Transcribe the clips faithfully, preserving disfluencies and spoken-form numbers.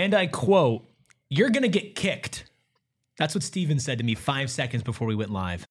and I quote, "You're going to get kicked." That's what Steven said to me five seconds before we went live.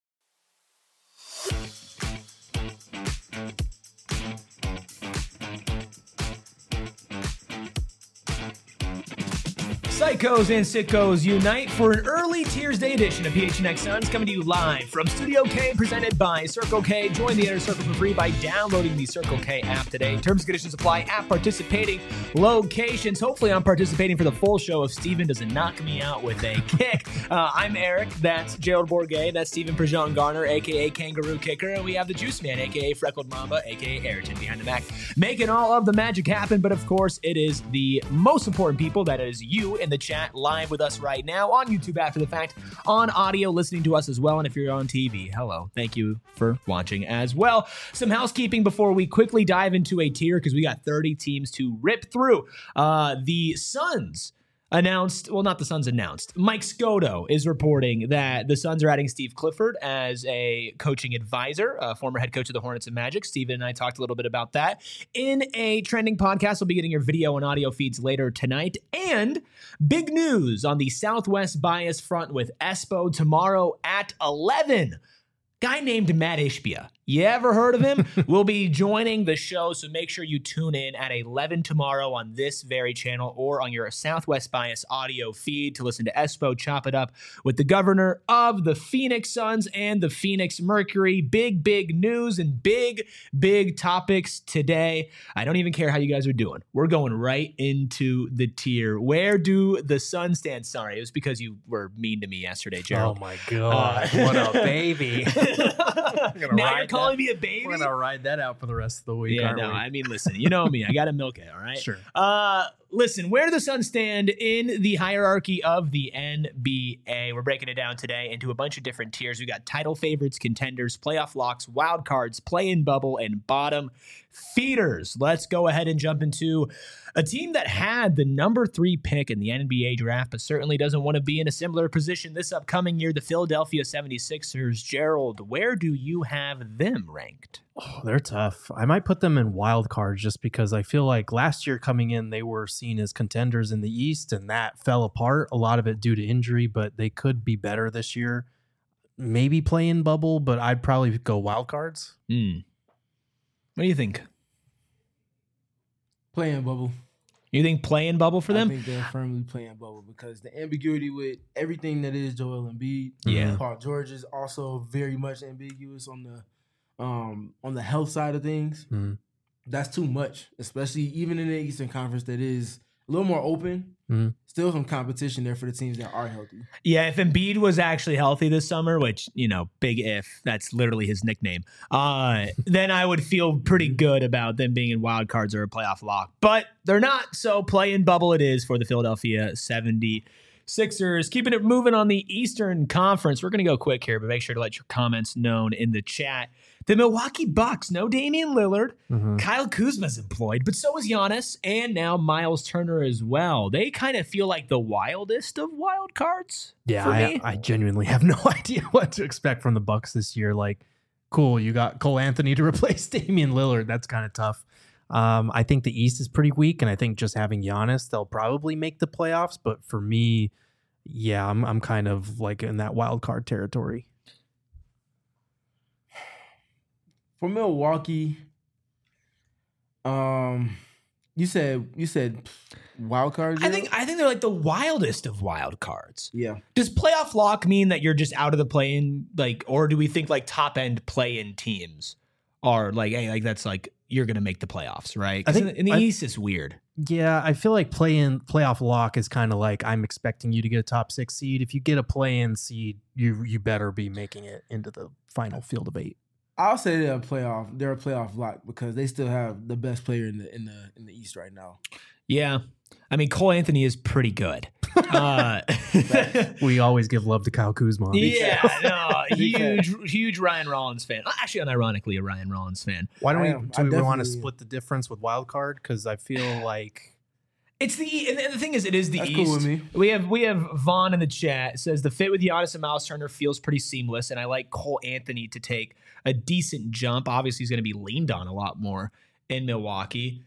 Psychos and sickos unite for an early Tears Day edition of P H N X Suns, coming to you live from Studio K, presented by Circle K. Join the Inner Circle for free by downloading the Circle K app today. Terms and conditions apply at participating locations. Hopefully I'm participating for the full show if Steven doesn't knock me out with a kick. Uh, I'm Eric. That's Gerald Bourget. That's Steven Prejean Garner, a k a. Kangaroo Kicker. And we have the Juice Man, a k a. Freckled Mamba, a k a. Ayrton behind the Mac, making all of the magic happen. But of course, it is the most important people. That is you in the chat live with us right now on YouTube after the fact, on audio, listening to us as well. And if you're on T V, hello. Thank you for watching as well. Some housekeeping before we quickly dive into a tier, because we got thirty teams to rip through. Uh, the Suns announced, well, not the Suns announced. Mike Scotto is reporting that the Suns are adding Steve Clifford as a coaching advisor, a former head coach of the Hornets and Magic. Steven and I talked a little bit about that in a trending podcast. We'll be getting your video and audio feeds later tonight. And big news on the Southwest Bias front with Espo tomorrow at eleven. Guy named Matt Ishbia. You ever heard of him? Will be joining the show, so make sure you tune in at eleven tomorrow on this very channel or on your Southwest Bias audio feed to listen to Espo chop it up with the governor of the Phoenix Suns and the Phoenix Mercury. Big, big news and big, big topics today. I don't even care how you guys are doing. We're going right into the tier. Where do the Suns stand? Sorry, it was because you were mean to me yesterday, Gerald. Oh my God, uh, what a baby. Now you're calling me a baby? We're going to ride that out for the rest of the week, yeah, aren't no, we? I mean, listen, you know me. I got to milk it, all right? Sure. Uh, listen, where do the Suns stand in the hierarchy of the N B A? We're breaking it down today into a bunch of different tiers. We got title favorites, contenders, playoff locks, wild cards, play-in bubble, and bottom feeders. Let's go ahead and jump into a team that had the number three pick in the N B A draft, but certainly doesn't want to be in a similar position this upcoming year, the Philadelphia seventy-sixers. Gerald, where do you have them ranked? Oh, they're tough. I might put them in wild cards just because I feel like last year coming in, they were seen as contenders in the East, and that fell apart, a lot of it due to injury, but they could be better this year. Maybe play in bubble, but I'd probably go wild cards. Mm. What do you think? Play-in bubble. You think play-in bubble for them? I think they're firmly play-in bubble because the ambiguity with everything that is Joel Embiid, yeah. Paul George is also very much ambiguous on the um, on the health side of things. Mm-hmm. That's too much, especially even in the Eastern Conference that is a little more open. Mm-hmm. Still some competition there for the teams that are healthy. Yeah, if Embiid was actually healthy this summer, which, you know, big if, that's literally his nickname, uh, then I would feel pretty good about them being in wild cards or a playoff lock. But they're not, so play-in bubble it is for the Philadelphia seventy-sixers. Keeping it moving on the Eastern Conference. We're going to go quick here, but make sure to let your comments known in the chat. The Milwaukee Bucks, no Damian Lillard. Mm-hmm. Kyle Kuzma's employed, but so is Giannis, and now Miles Turner as well. They kind of feel like the wildest of wild cards. Yeah, for I, me. I genuinely have no idea what to expect from the Bucks this year. Like, cool, you got Cole Anthony to replace Damian Lillard. That's kind of tough. Um, I think the East is pretty weak, and I think just having Giannis, they'll probably make the playoffs. But for me, yeah, I'm I'm kind of like in that wild card territory. For Milwaukee, um, you said you said wild cards. I think I think they're like the wildest of wild cards. Yeah. Does playoff lock mean that you're just out of the play-in, like, or do we think like top end play-in teams are like, hey, like that's like you're gonna make the playoffs, right? I I think- think in the I- East it's weird. Yeah, I feel like play-in playoff lock is kind of like I'm expecting you to get a top six seed. If you get a play-in seed, you you better be making it into the final field of eight. I'll say they're a playoff. They're a playoff lock because they still have the best player in the in the in the East right now. Yeah, I mean Cole Anthony is pretty good. Uh, We always give love to Kyle Kuzma. yeah, no, huge, huge Ryan Rollins fan. Actually, unironically, a Ryan Rollins fan. Why don't I we am. do I we want to definitely- split the difference with wild card? Because I feel like It's the and the thing is, it is the That's East. cool with me. We have we have Vaughn in the chat. It says the fit with Giannis and Miles Turner feels pretty seamless, and I like Cole Anthony to take a decent jump. Obviously, he's going to be leaned on a lot more in Milwaukee.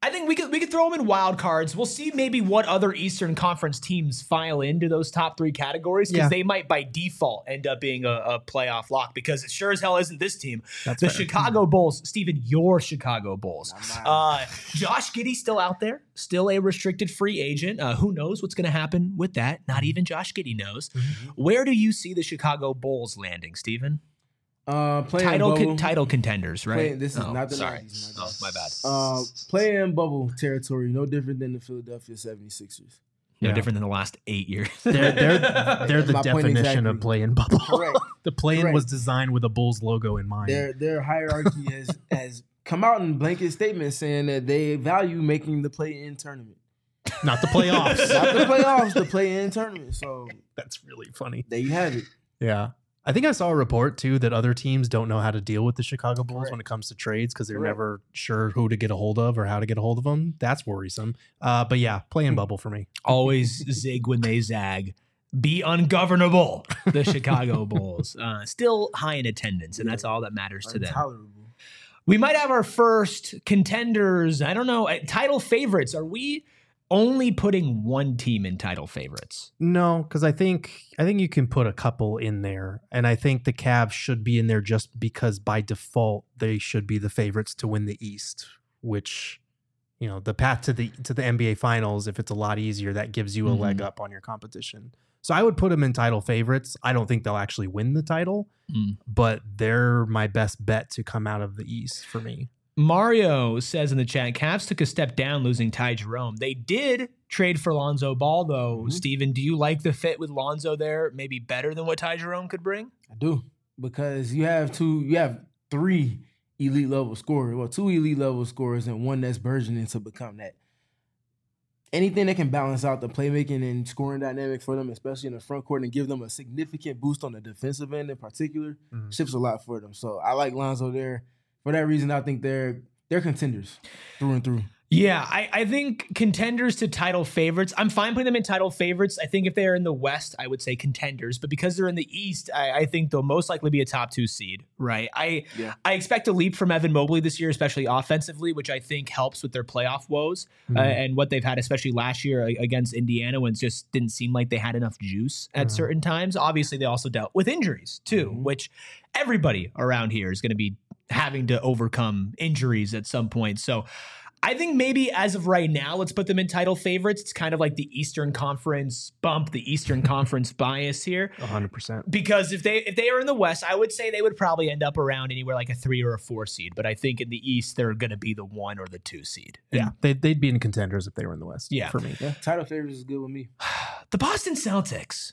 I think we could we could throw them in wild cards. We'll see maybe what other Eastern Conference teams file into those top three categories because Yeah. they might by default end up being a, a playoff lock because it sure as hell isn't this team. That's the fair. Chicago Bulls, Steven, your Chicago Bulls. Uh, Josh Giddey still out there, still a restricted free agent. Uh, who knows what's going to happen with that? Not even Josh Giddey knows. Mm-hmm. Where do you see the Chicago Bulls landing, Steven? Uh, playing Title bubble, con- title contenders, right? Playing- this is Oh, not the sorry. nineties, Oh, my bad. uh, playing bubble territory, no different than the Philadelphia seventy-sixers. No Yeah. different than the last eight years. They're they're they're the My point definition exactly. of play-in bubble. Correct. The play-in Correct. was designed with a Bulls logo in mind. Their their hierarchy has has come out in blanket statements saying that they value making the play-in tournament, Not the playoffs. not the playoffs, the play-in tournament. So That's really funny. there you have it. Yeah. I think I saw a report too that other teams don't know how to deal with the Chicago Bulls Correct. when it comes to trades because they're Correct. never sure who to get a hold of or how to get a hold of them. That's worrisome. Uh, but yeah, play-in bubble for me. Always zig when they zag. Be ungovernable, the Chicago Bulls. Uh, still high in attendance, and that's all that matters to them. Intolerable. We might have our first contenders. I don't know. uh, Title favorites. Are we only putting one team in title favorites? No, because I think I think you can put a couple in there, and I think the Cavs should be in there just because by default they should be the favorites to win the East. Which, you know, the path to the to the N B A Finals, if it's a lot easier, that gives you a Mhm. leg up on your competition. So I would put them in title favorites. I don't think they'll actually win the title, Mm. but they're my best bet to come out of the East for me. Mario says in the chat, Cavs took a step down losing Ty Jerome. They did trade for Lonzo Ball, though. Mhm. Steven, do you like the fit with Lonzo there? Maybe better than what Ty Jerome could bring? I do, because you have two, you have three elite level scorers, well, two elite level scorers, and one that's burgeoning to become that. Anything that can balance out the playmaking and scoring dynamic for them, especially in the front court, and give them a significant boost on the defensive end in particular, Mhm. shifts a lot for them. So I like Lonzo there. For that reason, I think they're they're contenders through and through. Yeah, I, I think contenders to title favorites. I'm fine putting them in title favorites. I think if they are in the West, I would say contenders. But because they're in the East, I, I think they'll most likely be a top two seed, right? I Yeah. I expect a leap from Evan Mobley this year, especially offensively, which I think helps with their playoff woes uh, Mhm. and what they've had, especially last year against Indiana when it just didn't seem like they had enough juice at Mhm. certain times. Obviously, they also dealt with injuries too, Mhm. which everybody around here is going to be having to overcome injuries at some point. So I think maybe as of right now, let's put them in title favorites. It's kind of like the Eastern Conference bump, the Eastern Conference bias here. one hundred percent. Because if they if they are in the West, I would say they would probably end up around anywhere like a three or a four seed. But I think in the East, they're going to be the one or the two seed. Yeah, they'd, they'd be in contenders if they were in the West. Yeah. For me. Yeah, title favorites is good with me. The Boston Celtics.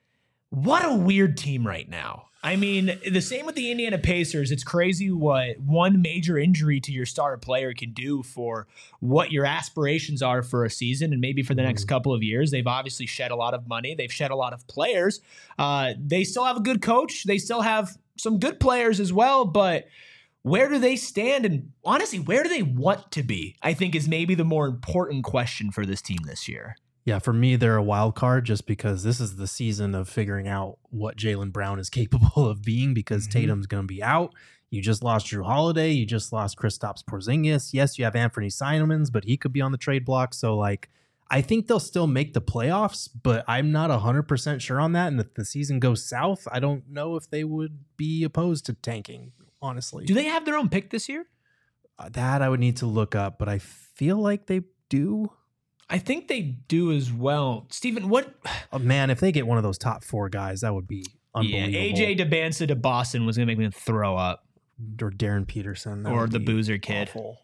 What a weird team right now. I mean, the same with the Indiana Pacers. It's crazy what one major injury to your star player can do for what your aspirations are for a season and maybe for the next Mhm. couple of years. They've obviously shed a lot of money. They've shed a lot of players. Uh, they still have a good coach. They still have some good players as well, but where do they stand? And honestly, where do they want to be? I think is maybe the more important question for this team this year. Yeah, for me, they're a wild card just because this is the season of figuring out what Jaylen Brown is capable of being because Mhm. Tatum's going to be out. You just lost Drew Holiday. You just lost Kristaps Porzingis. Yes, you have Anthony Simons, but he could be on the trade block. So, like, I think they'll still make the playoffs, but I'm not one hundred percent sure on that. And if the season goes south, I don't know if they would be opposed to tanking, honestly. Do they have their own pick this year? Uh, that I would need to look up, but I feel like they do. I think they do as well. Steven, what? Oh, man, if they get one of those top four guys, that would be Yeah, unbelievable. A J DeBansa to Boston was going to make me throw up. Or Darren Peterson. that Or would the be Boozer kid. awful.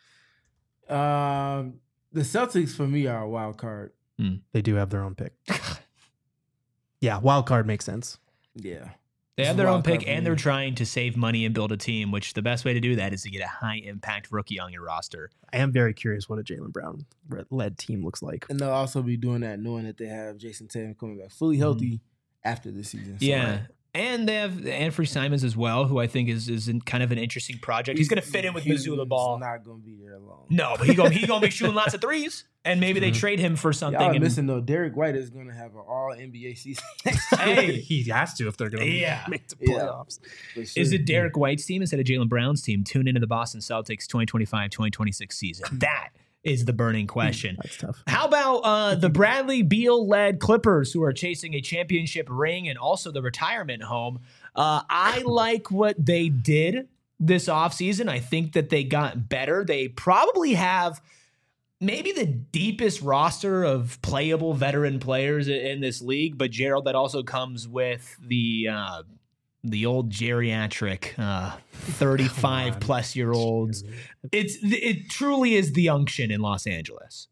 Um, the Celtics for me are a wild card. They do have their own pick. Yeah, wild card makes sense. Yeah. They This have is their own wild card pick, for and me. they're trying to save money and build a team, which the best way to do that is to get a high-impact rookie on your roster. I am very curious what a Jaylen Brown led team looks like. And they'll also be doing that knowing that they have Jason Tatum coming back fully healthy after the season. So, Yeah. And they have Anthony Simons as well, who I think is is in kind of an interesting project. He's, going to fit in with he's Missoula Ball. not going to be there long. No, but he's going he gonna be shooting lots of threes, and maybe they Mhm. trade him for something. Y'all are and- missing though. Derek White is going to have an all N B A season. Hey. he has to if they're going to Yeah. make the Yeah. playoffs. For sure. Is it Derek White's team instead of Jaylen Brown's team? Tune into the Boston Celtics twenty twenty-five twenty twenty-six season. That is the burning question. That's tough. How about uh, the Bradley Beal-led Clippers, who are chasing a championship ring and also the retirement home? Uh, I like what they did this offseason. I think that they got better. They probably have maybe the deepest roster of playable veteran players in this league, but Gerald, that also comes with the uh, the old geriatric uh, thirty-five plus year olds. It's it truly is the unction in Los Angeles.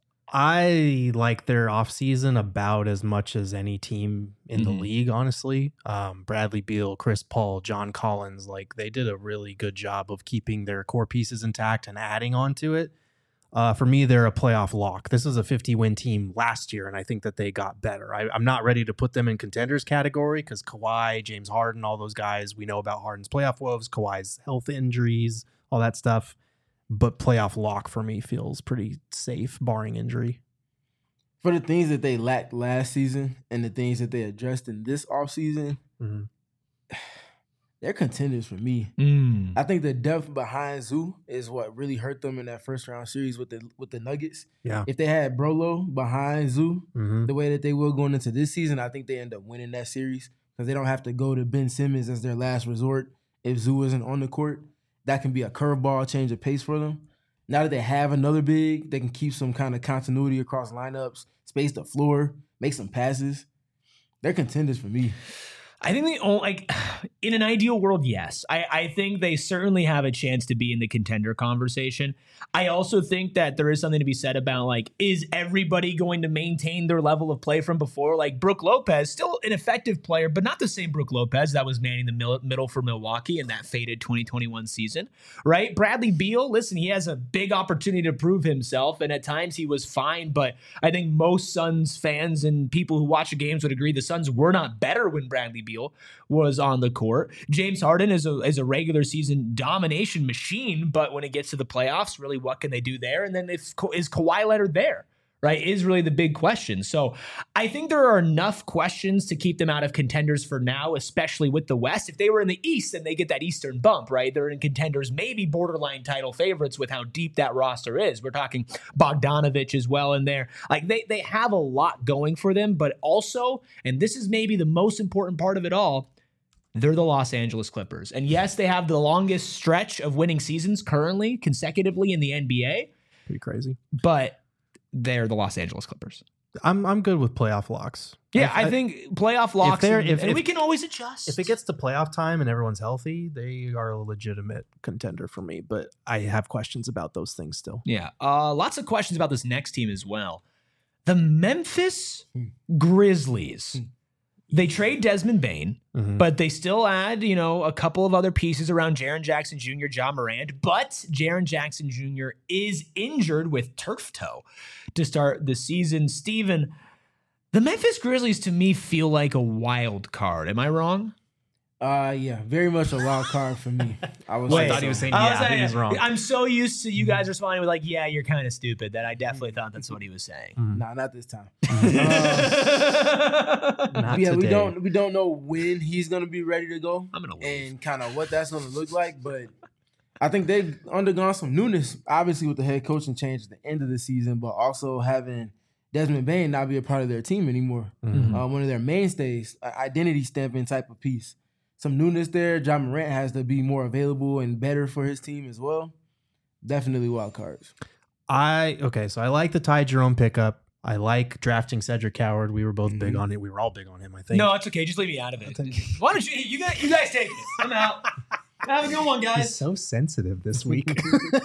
I like their offseason about as much as any team in Mm-hmm. the league, honestly. Um, Bradley Beal, Chris Paul, John Collins, like they did a really good job of keeping their core pieces intact and adding on to it. Uh, for me, they're a playoff lock. This is a fifty-win team last year, and I think that they got better. I, I'm not ready to put them in contenders category because Kawhi, James Harden, all those guys, we know about Harden's playoff woes, Kawhi's health injuries, all that stuff. But playoff lock for me feels pretty safe, barring injury. For the things that they lacked last season and the things that they addressed in this offseason, Mm-hmm. they're contenders for me. Mm. I think the depth behind Zoo is what really hurt them in that first round series with the with the Nuggets. Yeah. If they had Brolo behind Zoo Mm-hmm. the way that they will going into this season, I think they end up winning that series because they don't have to go to Ben Simmons as their last resort if Zoo isn't on the court. That can be a curveball, change of pace for them. Now that they have another big, they can keep some kind of continuity across lineups, space the floor, make some passes. They're contenders for me. I think they only, like, in an ideal world, yes. I, I think they certainly have a chance to be in the contender conversation. I also think that there is something to be said about, like, is everybody going to maintain their level of play from before? Like, Brook Lopez, still an effective player, but not the same Brook Lopez that was manning the mil- middle for Milwaukee in that faded twenty twenty-one season, right? Bradley Beal, listen, he has a big opportunity to prove himself, and at times he was fine, but I think most Suns fans and people who watch the games would agree the Suns were not better when Bradley Beal was on the court. James Harden is a is a regular season domination machine, but when it gets to the playoffs, really, what can they do there? And then if is Kawhi Leonard there, right, is really the big question. So I think there are enough questions to keep them out of contenders for now, especially with the West. If they were in the East, then they get that Eastern bump, right? They're in contenders, maybe borderline title favorites with how deep that roster is. We're talking Bogdanovich as well in there. Like they they have a lot going for them, but also, and this is maybe the most important part of it all, they're the Los Angeles Clippers. And yes, they have the longest stretch of winning seasons currently consecutively in the N B A, Pretty crazy. but they're the Los Angeles Clippers. I'm I'm good with playoff locks. Yeah, If- I, think playoff locks, they're- and, if- and if- we can always adjust. If it gets to playoff time and everyone's healthy, they are a legitimate contender for me. But I have questions about those things still. Yeah, uh, lots of questions about this next team as well. The Memphis Grizzlies. They trade Desmond Bane, Mhm. but they still add, you know, a couple of other pieces around Jaren Jackson Junior, Ja Morant. But Jaren Jackson Junior is injured with turf toe to start the season. Steven, the Memphis Grizzlies to me feel like a wild card. Am I wrong? Uh, yeah, very much a wild card for me. I was Wait, I thought he was saying- I yeah, saying- he was wrong. I'm so used to you guys responding with like, yeah, you're kind of stupid that I definitely thought that's what he was saying. Nah, not this time. Not yeah, we today. don't we don't know when he's gonna be ready to go. I'm gonna leave. and kind of what that's gonna look like, but I think they've undergone some newness, obviously with the head coaching change at the end of the season, but also having Desmond Bane not be a part of their team anymore. Mhm. Uh, one of their mainstays, an identity stamping type of piece. Some newness there. Ja Morant has to be more available and better for his team as well. Definitely wild cards. I okay, so I like the Ty Jerome pickup. I like drafting Cedric Howard. We were both big on it. We were all big on him, I think. No, it's okay. Just leave me out of it. Why don't you? You guys, you guys take it. I'm out. Have a good one, He's guys. so sensitive this week.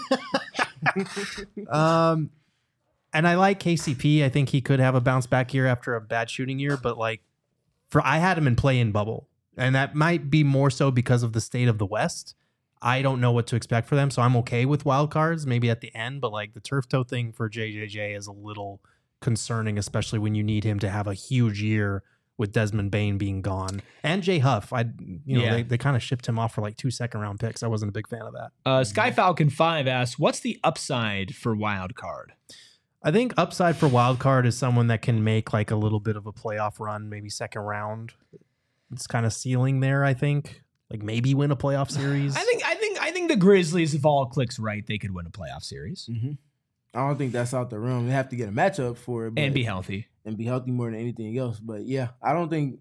um, and I like K C P. I think he could have a bounce back year after a bad shooting year. But like, for I had him in play in bubble, and that might be more so because of the state of the West. I don't know what to expect for them, so I'm okay with wild cards maybe at the end. But like the turf toe thing for J J J is a little concerning, especially when you need him to have a huge year with Desmond Bane being gone and Jay Huff. I, you know, Yeah. they, they kind of shipped him off for like two second round picks. I wasn't a big fan of that. Uh, Sky Falcon five asks, "What's the upside for wild card?" I think upside for wild card is someone that can make like a little bit of a playoff run, maybe second round. It's kind of ceiling there, I think. Like maybe win a playoff series. I think, I think, I think the Grizzlies, if all clicks right, they could win a playoff series. Mm-hmm. I don't think that's out the realm. They have to get a matchup for it. But, and be healthy. And be healthy more than anything else. But, yeah, I don't think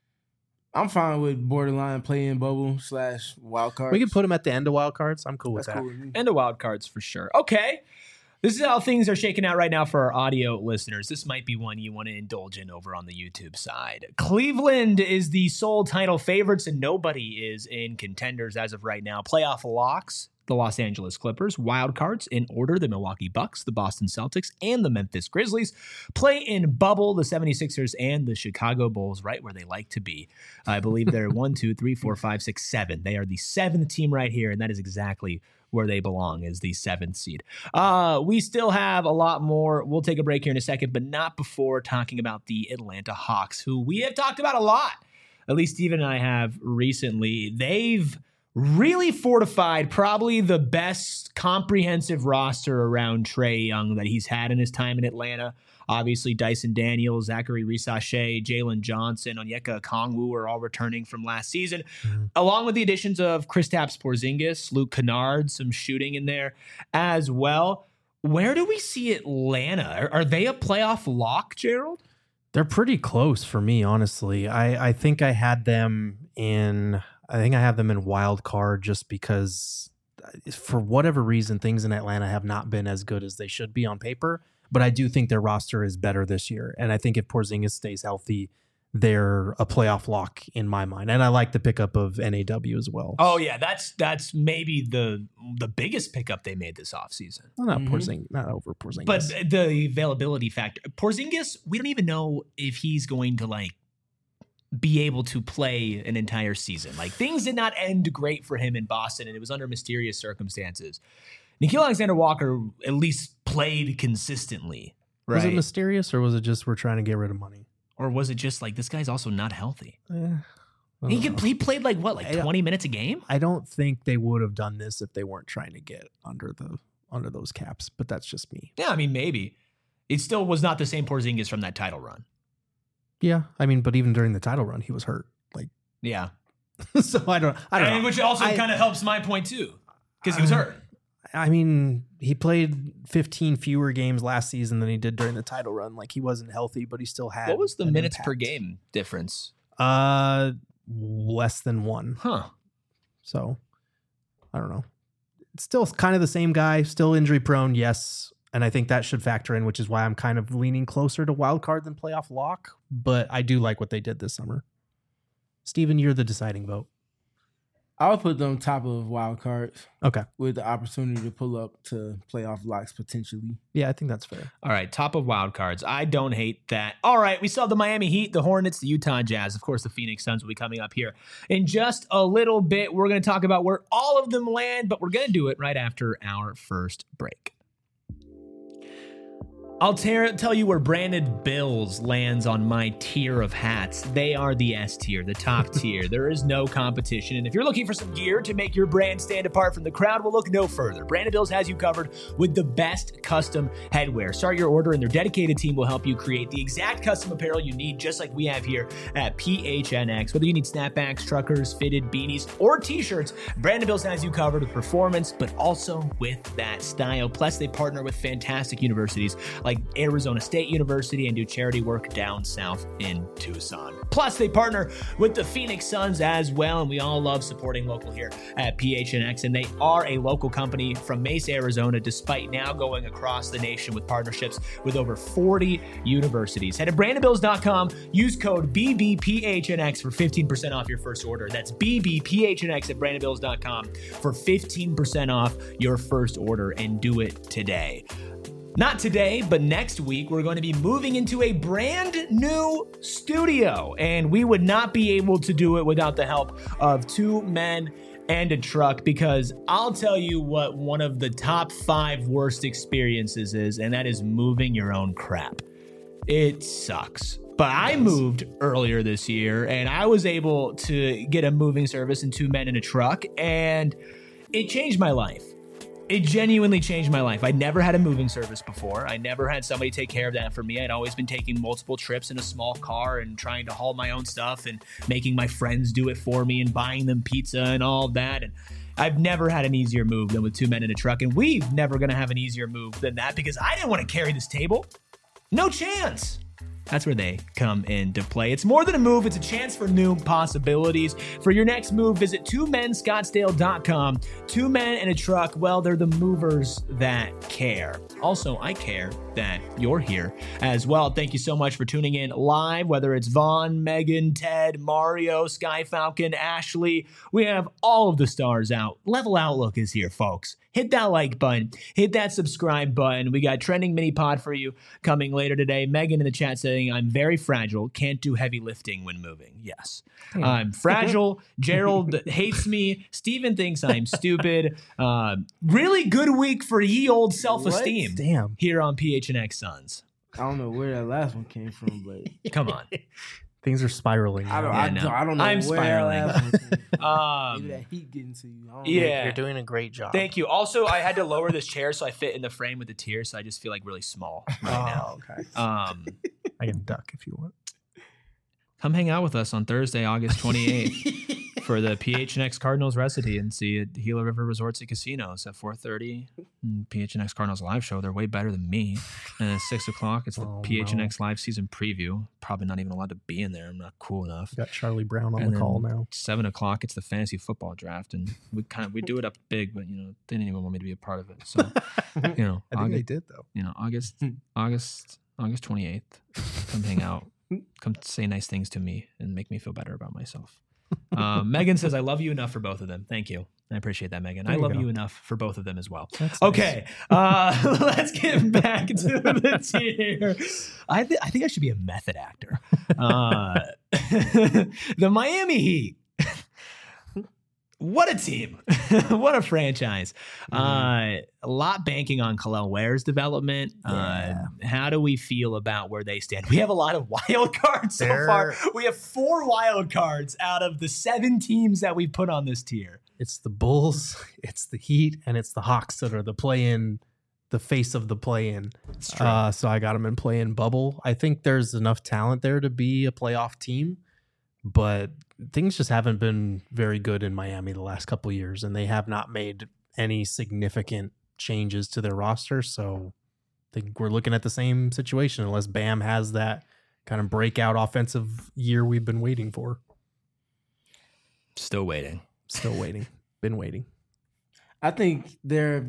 – I'm fine with borderline play-in bubble slash wild cards. We can put them at the end of wild cards. I'm cool That's with that. cool with me. And the wild cards for sure. Okay. This is how things are shaking out right now for our audio listeners. This might be one you want to indulge in over on the YouTube side. Cleveland is the sole title favorites, and nobody is in contenders as of right now. Playoff locks, the Los Angeles Clippers. Wild cards in order, the Milwaukee Bucks, the Boston Celtics, and the Memphis Grizzlies. Play in bubble, the seventy-sixers and the Chicago Bulls, right where they like to be. I believe they're one, two, three, four, five, six, seven. They are the seventh team right here, and that is exactly where they belong, is the seventh seed. Uh, we still have a lot more. We'll take a break here in a second, but not before talking about the Atlanta Hawks, who we have talked about a lot. At least Steven and I have recently. They've really fortified probably the best comprehensive roster around Trae Young that he's had in his time in Atlanta. Obviously, Dyson Daniels, Zachary Risachet, Jalen Johnson, Onyeka Okongwu are all returning from last season, mm-hmm. along with the additions of Kristaps Porzingis, Luke Kennard, some shooting in there as well. Where do we see Atlanta? Are, are they a playoff lock, Gerald? They're pretty close for me, honestly. I, I think I had them in... I think I have them in wild card just because for whatever reason, things in Atlanta have not been as good as they should be on paper. But I do think their roster is better this year. And I think if Porzingis stays healthy, they're a playoff lock in my mind. And I like the pickup of N A W as well. Oh, yeah. That's that's maybe the the biggest pickup they made this offseason. Well, not mm-hmm. Porzingis, not over Porzingis. But the availability factor. Porzingis, we don't even know if he's going to, like, be able to play an entire season. Like, things did not end great for him in Boston, and it was under mysterious circumstances. Nickeil Alexander-Walker at least played consistently, right? Was it mysterious, or was it just we're trying to get rid of money? Or was it just like, this guy's also not healthy? Eh, he could, he played like what, like twenty minutes a game? I don't think they would have done this if they weren't trying to get under the under those caps, but that's just me. Yeah, I mean, maybe. It still was not the same Porzingis from that title run. Yeah, I mean, but even during the title run, he was hurt. Like, yeah. so I don't, I don't and know. Which also kind of helps my point too, because he was hurt. I mean, he played fifteen fewer games last season than he did during the title run. Like, he wasn't healthy, but he still had. What was the minutes impact. per game difference? Uh, less than one. Huh. So, I don't know. It's still kind of the same guy, still injury prone, yes. And I think that should factor in, which is why I'm kind of leaning closer to wild card than playoff lock. But I do like what they did this summer. Steven, you're the deciding vote. I would put them top of wild cards. Okay. With the opportunity to pull up to playoff locks potentially. Yeah, I think that's fair. All right, top of wild cards. I don't hate that. All right, we saw the Miami Heat, the Hornets, the Utah Jazz. Of course, the Phoenix Suns will be coming up here in just a little bit. We're going to talk about where all of them land, but we're going to do it right after our first break. I'll ter- tell you where Branded Bills lands on my tier of hats. They are the S tier, the top tier. There is no competition. And if you're looking for some gear to make your brand stand apart from the crowd, well, look no further. Branded Bills has you covered with the best custom headwear. Start your order and their dedicated team will help you create the exact custom apparel you need, just like we have here at P H N X. Whether you need snapbacks, truckers, fitted beanies, or t-shirts, Branded Bills has you covered with performance, but also with that style. Plus, they partner with fantastic universities like Arizona State University and do charity work down south in Tucson. Plus, they partner with the Phoenix Suns as well, and we all love supporting local here at P H N X, and they are a local company from Mesa, Arizona, despite now going across the nation with partnerships with over forty universities. Head to branded bills dot com, use code B B P H N X for fifteen percent off your first order. That's B B P H N X at branded bills dot com for fifteen percent off your first order, and do it today. Not today, but next week, we're going to be moving into a brand new studio, and we would not be able to do it without the help of two men and a truck, because I'll tell you what one of the top five worst experiences is, and that is moving your own crap. It sucks. But I moved earlier this year, and I was able to get a moving service and two men in a truck, and it changed my life. It genuinely changed my life. I never had a moving service before. I never had somebody take care of that for me. I'd always been taking multiple trips in a small car and trying to haul my own stuff and making my friends do it for me and buying them pizza and all that. And I've never had an easier move than with two men in a truck, and we've never going to have an easier move than that because I didn't want to carry this table. No chance. That's where they come into play. It's more than a move, it's a chance for new possibilities. For your next move, visit two men scottsdale dot com. Two men in a truck, well, they're the movers that care. Also, I care that you're here as well. Thank you so much for tuning in live, whether it's Vaughn, Megan, Ted, Mario, Sky Falcon, Ashley. We have all of the stars out. Level Outlook is here, folks. Hit that like button. Hit that subscribe button. We got Trending Mini Pod for you coming later today. Megan in the chat saying, I'm very fragile. Can't do heavy lifting when moving. Yes. Yeah. I'm fragile. Gerald hates me. Steven thinks I'm stupid. Uh, really good week for ye old self-esteem. What? Damn. Here on P H N X Suns. I don't know where that last one came from, but come on. Things are spiraling. I don't, Yeah, I, no. don't I don't know I'm where spiraling. that last one came from. Um, Maybe that heat getting to you. I don't yeah. know. You're doing a great job. Thank you. Also, I had to lower this chair so I fit in the frame with the tier, so I just feel like really small right now. Oh, okay. Um, I can duck if you want. come hang out with us on Thursday, August twenty-eighth for the P H N X Cardinals recipe and see at Gila River Resorts and Casinos at four thirty. P H N X Cardinals live show. They're way better than me. And at six o'clock, it's the Oh, P H N X no. live season preview. Probably not even allowed to be in there. I'm not cool enough. We got Charlie Brown on And the call then now. Seven o'clock, it's the fantasy football draft, and we kind of we do it up big, but you know they didn't even want me to be a part of it. So you know, I think they August, did though. you know August, August, August twenty eighth. Come hang out. Come say nice things to me and make me feel better about myself. Um, Megan says, I love you enough for both of them. Thank you. I appreciate that, Megan. There I you love go. you enough for both of them as well. That's Okay, uh, let's get back to the tier. I, th- I think I should be a method actor. Uh, the Miami Heat. What a team. What a franchise. Uh, a lot banking on Khalil Ware's development. Yeah. Uh, how do we feel about where they stand? We have a lot of wild cards so They're- far. We have four wild cards out of the seven teams that we put on this tier. It's the Bulls, it's the Heat, and it's the Hawks that are the play-in, the face of the play-in. It's true. Uh, so I got them in play-in bubble. I think there's enough talent there to be a playoff team, but things just haven't been very good in Miami the last couple of years, and they have not made any significant changes to their roster. So I think we're looking at the same situation unless Bam has that kind of breakout offensive year we've been waiting for. Still waiting. Still waiting. Been waiting. I think they're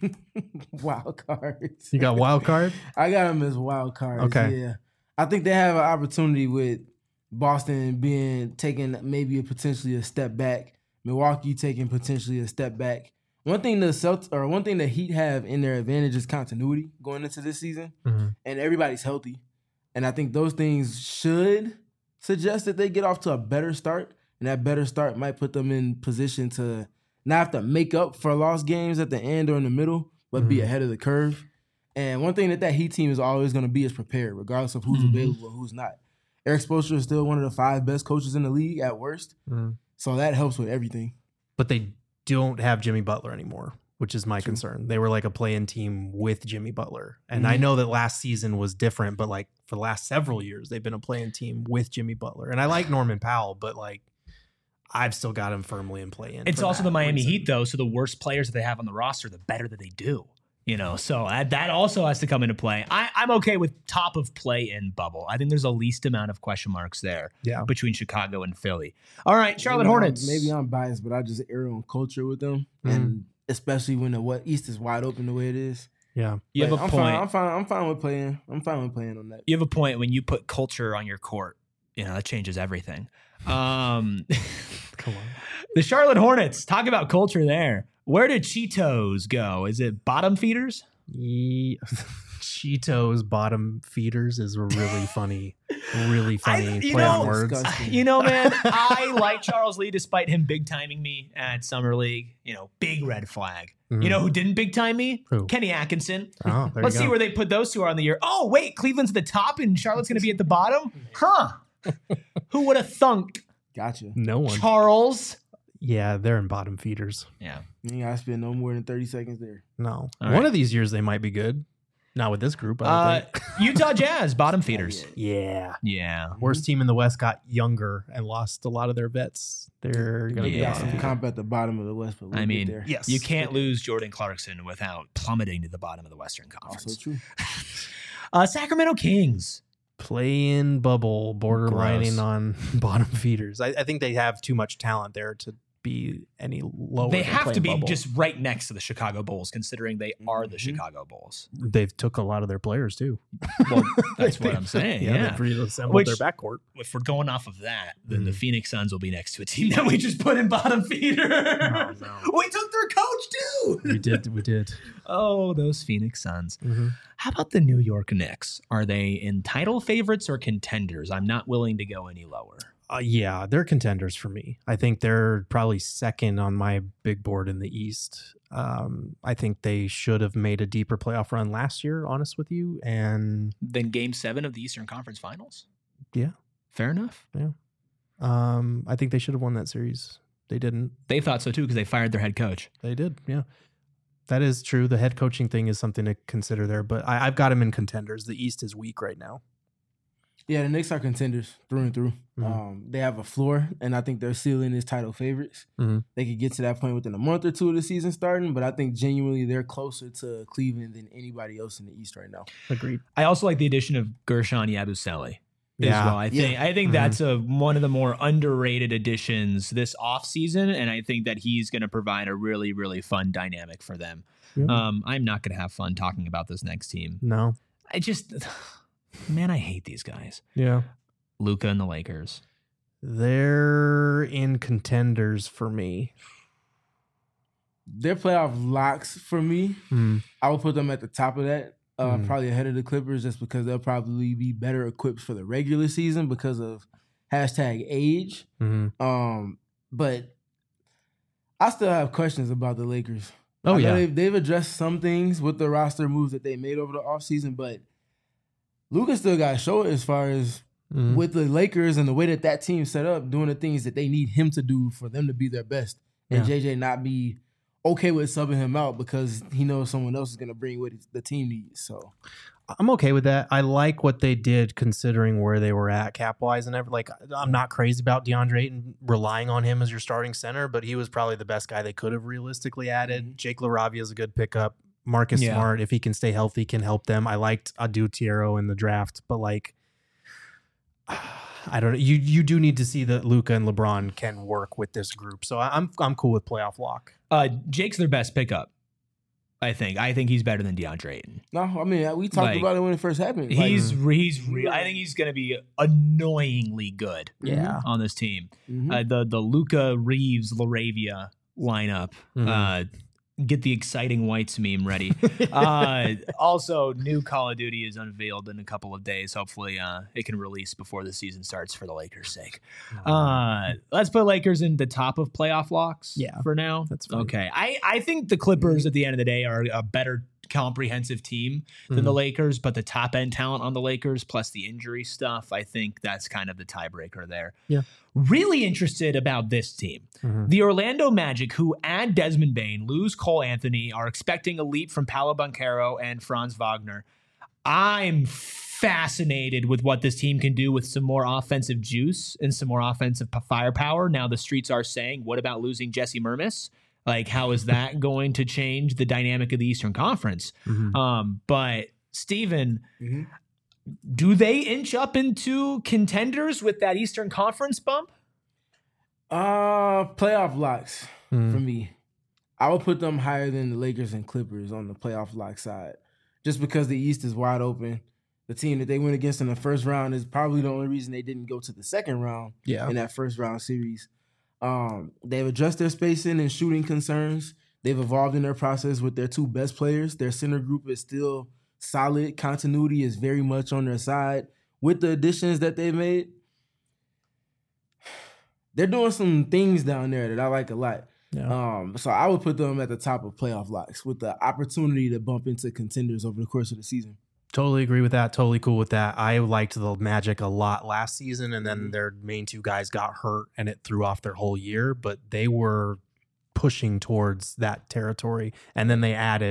wild cards. You got wild card? I got them as wild cards. Okay. Yeah. I think they have an opportunity with Boston being taking maybe a potentially a step back. Milwaukee taking potentially a step back. One thing the Celtics or one thing the Heat have in their advantage is continuity going into this season, Mm-hmm. and everybody's healthy. And I think those things should suggest that they get off to a better start, and that better start might put them in position to not have to make up for lost games at the end or in the middle, but be Mhm. ahead of the curve. And one thing that that Heat team is always going to be is prepared, regardless of who's Mhm. available or who's not. Eric Spoelstra is still one of the five best coaches in the league at worst, Mm. so that helps with everything. But they don't have Jimmy Butler anymore, which is my True. concern. They were like a play-in team with Jimmy Butler. And I Mhm. know that last season was different, but like for the last several years, they've been a play-in team with Jimmy Butler. And I like Norman Powell, but like I've still got him firmly in play-in. It's for also that the Miami reason. Heat, though, so the worse players that they have on the roster, the better that they do. You know, so that that also has to come into play. I, I'm okay with top of play-in bubble. I think there's the least amount of question marks there Yeah. between Chicago and Philly. All right, Charlotte Maybe I'm- Hornets. maybe I'm biased, but I just err on culture with them, Mhm. and especially when the what East is wide open the way it is. Yeah. You have But a I'm point. Fine, I'm fine. I'm fine with playing. I'm fine with playing on that. You have a point when you put culture on your court. You know, that changes everything. Um, Come on. the Charlotte Hornets, talk about culture there. Where did Cheetos go? Is it bottom feeders? Ye- Cheetos bottom feeders is a really funny, really funny I- you play on know- words. Disgusting. You know, man, I like Charles Lee despite him big timing me at Summer League. You know, big red flag. Mhm. You know who didn't big time me? Who? Kenny Atkinson. Oh, there Let's you see go. where they put those two on the year. Oh, wait, Cleveland's at the top and Charlotte's going to be at the bottom? Huh. Who would have thunk? Gotcha. No one. Charles. Yeah, they're in bottom feeders. Yeah. You ain't gotta spend no more than thirty seconds there. No. All One right. of these years they might be good. Not with this group. I don't Uh, think. Utah Jazz, bottom feeders. Yeah. Yeah. Worst team in the West got younger and lost a lot of their vets. They're going to Yeah. Got be some bottom. comp at the bottom of the West, but we'll I get mean, there. Yes. you can't lose Jordan Clarkson without plummeting to the bottom of the Western Also Conference. true. Uh, Sacramento Kings. Play-in bubble, borderlining Gross. on bottom feeders. I, I think they have too much talent there to be any lower. They than have to play-in be bubble. just right next to the Chicago Bulls, considering they are the Mhm. Chicago Bulls. They've took a lot of their players too. Well, that's what I'm saying. Yeah, Yeah. they've reassembled Which- their backcourt. If we're going off of that, then the Mhm. Phoenix Suns will be next to a team that we just put in bottom feeder. Oh, no. We took their coach too. We did. We did. Oh, those Phoenix Suns. Mhm. How about the New York Knicks? Are they in title favorites or contenders? I'm not willing to go any lower. Uh, yeah, they're contenders for me. I think they're probably second on my big board in the East. Um, I think they should have made a deeper playoff run last year, honest with you. And Then game seven of the Eastern Conference Finals? Yeah. Fair enough. um, I think they should have won that series. They didn't. They thought so too because they fired their head coach. They did. Yeah. That is true. The head coaching thing is something to consider there, but I, I've got them in contenders. The East is weak right now. Yeah, the Knicks are contenders through and through. Mhm. Um, they have a floor, and I think their ceiling is title favorites. Mhm. They could get to that point within a month or two of the season starting, but I think genuinely they're closer to Cleveland than anybody else in the East right now. Agreed. I also like the addition of Gershon Yabusele. Yeah. As well. I think Yeah. I think Mhm. that's a one of the more underrated additions this offseason, and I think that he's going to provide a really, really fun dynamic for them. Yeah. Um, I'm not going to have fun talking about this next team. No. I just, man, I hate these guys. Yeah. Luka and the Lakers. They're in contenders for me. Their playoff locks for me, Mm. I would put them at the top of that, uh, Mhm. probably ahead of the Clippers, just because they'll probably be better equipped for the regular season because of hashtag age. Mhm. Um, but I still have questions about the Lakers. Oh, I know yeah. they've, they've addressed some things with the roster moves that they made over the offseason, but Luka still got to show it as far as Mhm. with the Lakers and the way that that team set up, doing the things that they need him to do for them to be their best, and Yeah. J J not be okay with subbing him out because he knows someone else is going to bring what the team needs. So I'm okay with that. I like what they did considering where they were at cap wise and everything. Like, I'm not crazy about DeAndre Ayton relying on him as your starting center, but he was probably the best guy they could have realistically added. Mhm. Jake LaRavia is a good pickup. Marcus Yeah. Smart, if he can stay healthy, can help them. I liked Adu Tiero in the draft, but like, I don't know. You you do need to see that Luka and LeBron can work with this group. So I- I'm I'm cool with playoff lock. Uh, Jake's their best pickup. I think. I think he's better than DeAndre Ayton. no, I mean we talked Like, about it when it first happened. Like, He's he's re- I think he's going to be annoyingly good. Yeah. On this team. mhm. Uh, the the Luca Reeves Laravia lineup. Mhm. Uh, get the exciting whites meme ready. uh, also, new Call of Duty is unveiled in a couple of days. Hopefully, uh, it can release before the season starts for the Lakers' sake. Uh, let's put Lakers in the top of playoff locks. Yeah, for now. that's fine. okay. I I think the Clippers at the end of the day are a better comprehensive team than the Mhm. Lakers, but the top end talent on the Lakers plus the injury stuff, I think that's kind of the tiebreaker there. Yeah. Really interested about this team. Mhm. The Orlando Magic, who add Desmond Bain, lose Cole Anthony, are expecting a leap from Paolo Banchero and Franz Wagner. I'm fascinated with what this team can do with some more offensive juice and some more offensive p- firepower. Now the streets are saying, what about losing Jesse Mermis? Like, how is that going to change the dynamic of the Eastern Conference? Mhm. Um, but Steven, Mhm. do they inch up into contenders with that Eastern Conference bump? Uh, playoff locks Mhm. for me. I would put them higher than the Lakers and Clippers on the playoff lock side, just because the East is wide open. The team that they went against in the first round is probably the only reason they didn't go to the second round Yeah. in that first round series. Um, they've addressed their spacing and shooting concerns. They've evolved in their process with their two best players. Their center group is still solid. Continuity is very much on their side. With the additions that they've made, they're doing some things down there that I like a lot. Yeah. Um, so I would put them at the top of playoff locks with the opportunity to bump into contenders over the course of the season. Totally agree with that. Totally cool with that. I liked the Magic a lot last season, and then their main two guys got hurt, and it threw off their whole year. But they were pushing towards that territory, and then they added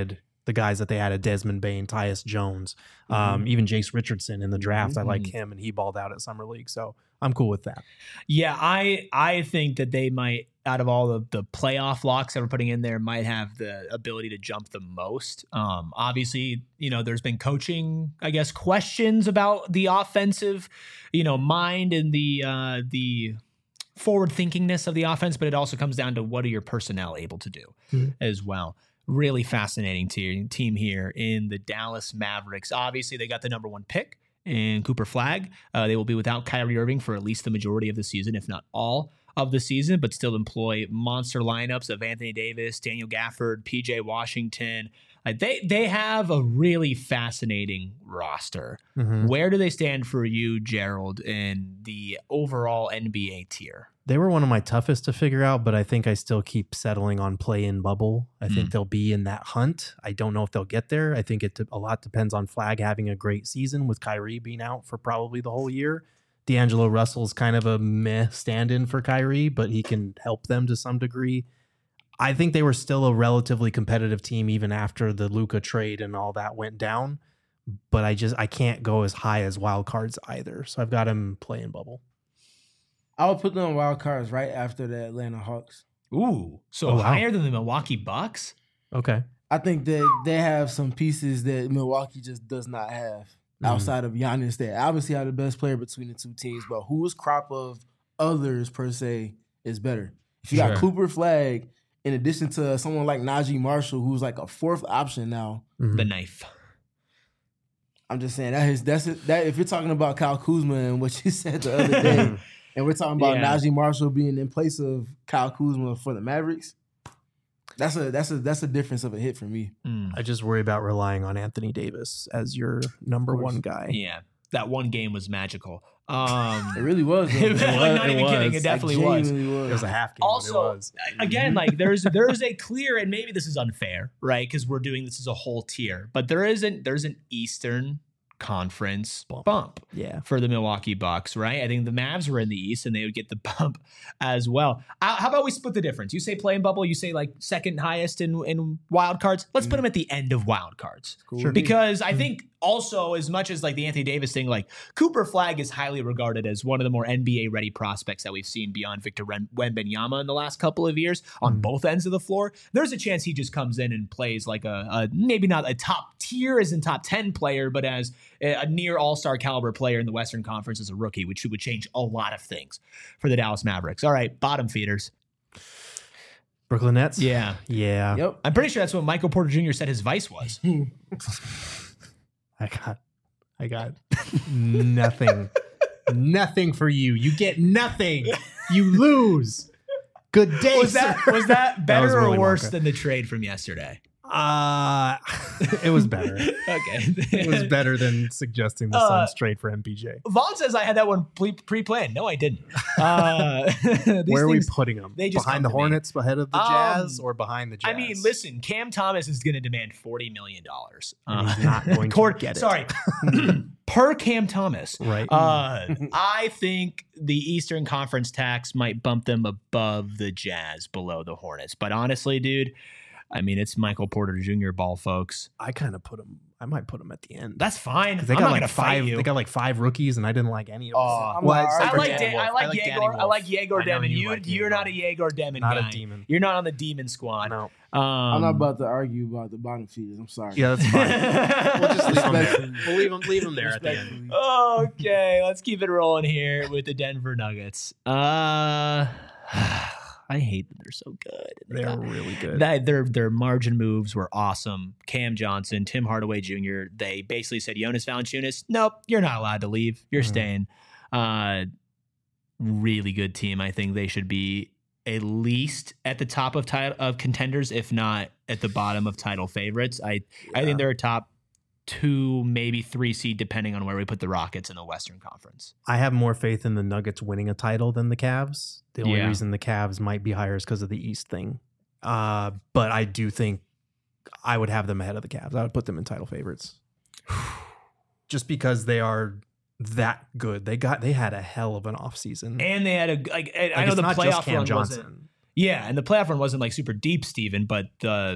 the guys that they had, Desmond Bain, Tyus Jones, um, even Jace Richardson in the draft. Mm-hmm. I like him, and he balled out at Summer League. So I'm cool with that. Yeah, I I think that they might, out of all of the playoff locks that we're putting in there, might have the ability to jump the most. Um, obviously, you know, there's been coaching, I guess, questions about the offensive, you know, mind and the uh, the forward thinkingness of the offense, but it also comes down to what are your personnel able to do mm-hmm. as well. Really fascinating te- team here in the Dallas Mavericks. Obviously, they got the number one pick in Cooper Flagg. Uh, they will be without Kyrie Irving for at least the majority of the season, if not all of the season, but still employ monster lineups of Anthony Davis, Daniel Gafford, P J Washington. Uh, they they have a really fascinating roster. Mm-hmm. Where do they stand for you, Gerald, in the overall N B A tier? They were one of my toughest to figure out, but I think I still keep settling on play-in bubble. I mm. think they'll be in that hunt. I don't know if they'll get there. I think it a lot depends on Flagg having a great season with Kyrie being out for probably the whole year. D'Angelo Russell's kind of a meh stand-in for Kyrie, but he can help them to some degree. I think they were still a relatively competitive team even after the Luka trade and all that went down, but I just I can't go as high as wild cards either. So I've got him play-in bubble. I would put them on wild cards right after the Atlanta Hawks. Ooh, so oh, wow. higher than the Milwaukee Bucks? Okay. I think that they have some pieces that Milwaukee just does not have mm. outside of Giannis. They obviously are the best player between the two teams, but whose crop of others per se is better? If you sure. got Cooper Flagg, in addition to someone like Najee Marshall, who's like a fourth option now. Mm-hmm. The knife. I'm just saying that is that's it, that. If you're talking about Kyle Kuzma and what you said the other day. And we're talking about yeah. Najee Marshall being in place of Kyle Kuzma for the Mavericks. That's a that's a that's a difference of a hit for me. Mm. I just worry about relying on Anthony Davis as your number one guy. Yeah, that one game was magical. Um, it really was. It was, like, not it even was. kidding. It definitely was. was. It was a half game. Also, it was. again, like there's there's a clear, and maybe this is unfair, right? Because we're doing this as a whole tier, but there isn't there's an Eastern Conference bump. bump yeah for the Milwaukee Bucks, right? I think the Mavs were in the East and they would get the bump as well. Uh, how about we split the difference? You say play-in bubble, you say like second highest in, in wild cards. Let's mm. put them at the end of wild cards. Cool. Sure. Because I think also, as much as like the Anthony Davis thing, like Cooper Flagg is highly regarded as one of the more N B A ready prospects that we've seen beyond Victor Wembanyama in the last couple of years on mm. both ends of the floor. There's a chance he just comes in and plays like a, a maybe not a top tier as in top ten player, but as a, a near all-star caliber player in the Western Conference as a rookie, which would change a lot of things for the Dallas Mavericks. All right, bottom feeders. Brooklyn Nets? Yeah. Yeah. Yep. I'm pretty sure that's what Michael Porter Junior said his vice was. I got, I got nothing, nothing for you. You get nothing. You lose. Good day. Was that was that better that was or worse Wonka. than the trade from yesterday? Uh, it was better. Okay. It was better than suggesting the Uh, Suns trade for M P J. Vaughn says I had that one pre- pre-planned. No, I didn't. Uh, Where are we things, putting them? They just behind the Hornets, me. ahead of the Jazz, um, or behind the Jazz? I mean, listen, Cam Thomas is going to demand forty million dollars. Uh, he's not going to get it. Sorry. Per Cam Thomas. Right. Uh, I think the Eastern Conference tax might bump them above the Jazz, below the Hornets. But honestly, dude, I mean, it's Michael Porter Junior ball, folks. I kind of put him. I might put him at the end. That's fine. They I'm got not like gonna five. fight you. They got like five rookies, and I didn't like any of them. Uh, well, I like. Dan, I like Yegor. I like Yegor Demon. You, like you're not a Yegor Demon not guy. a demon. You're not on the demon squad. No. Um, I'm not about to argue about the bottom feeders. I'm sorry. Yeah, that's fine. We'll just leave them there. We'll leave them. Leave them there at the end. Okay, let's keep it rolling here with the Denver Nuggets. Uh. I hate that they're so good. They're got, really good. That, their their margin moves were awesome. Cam Johnson, Tim Hardaway Junior They basically said, Jonas Valanciunas, nope, you're not allowed to leave. You're mm-hmm. staying. Uh, really good team. I think they should be at least at the top of title of contenders, if not at the bottom of title favorites. I yeah. I think they're a top two, maybe three seed, depending on where we put the Rockets in the Western Conference. I have more faith in the Nuggets winning a title than the Cavs. The only yeah. reason the Cavs might be higher is because of the East thing. Uh, but I do think I would have them ahead of the Cavs. I would put them in title favorites. Just because they are that good. They got they had a hell of an offseason. And they had a like, I like know the not playoff just Cam run Johnson. wasn't. Yeah, and the playoff run wasn't like super deep, Steven, but the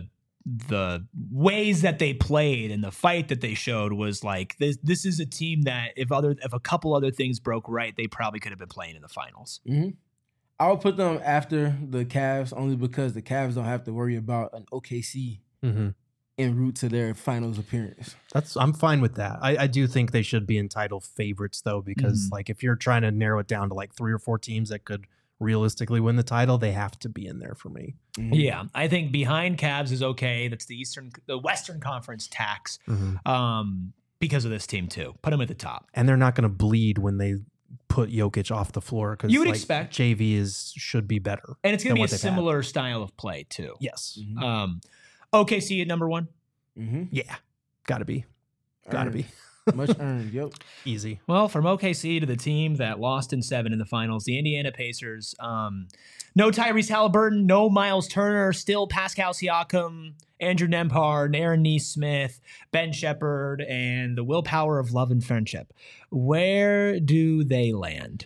the ways that they played and the fight that they showed was like this. This is a team that if other if a couple other things broke right, they probably could have been playing in the finals. Mm-hmm. I would put them after the Cavs only because the Cavs don't have to worry about an O K C Mm-hmm. en route to their finals appearance. That's I'm fine with that. I, I do think they should be in title favorites though, because Mhm. like if you're trying to narrow it down to like three or four teams that could realistically win the title, they have to be in there for me. Mhm. Yeah, I think behind Cavs is okay. That's the Eastern, the Western Conference tax Mm-hmm. um, because of this team too. Put them at the top. And they're not going to bleed when they put Jokic off the floor because You would like, expect. J V is should be better. And it's going than to be a what they've had. similar style of play too. Yes. Mhm. Um, O K C at number one. Mm-hmm. Yeah. Got to be. Got to Earned. be. Much earned. Yep. Easy. Well, from O K C to the team that lost in seven in the finals, the Indiana Pacers. Um, no Tyrese Halliburton, no Miles Turner, still Pascal Siakam, Andrew Nembhard, Aaron Nesmith, Ben Shepherd, and the willpower of love and friendship. Where do they land?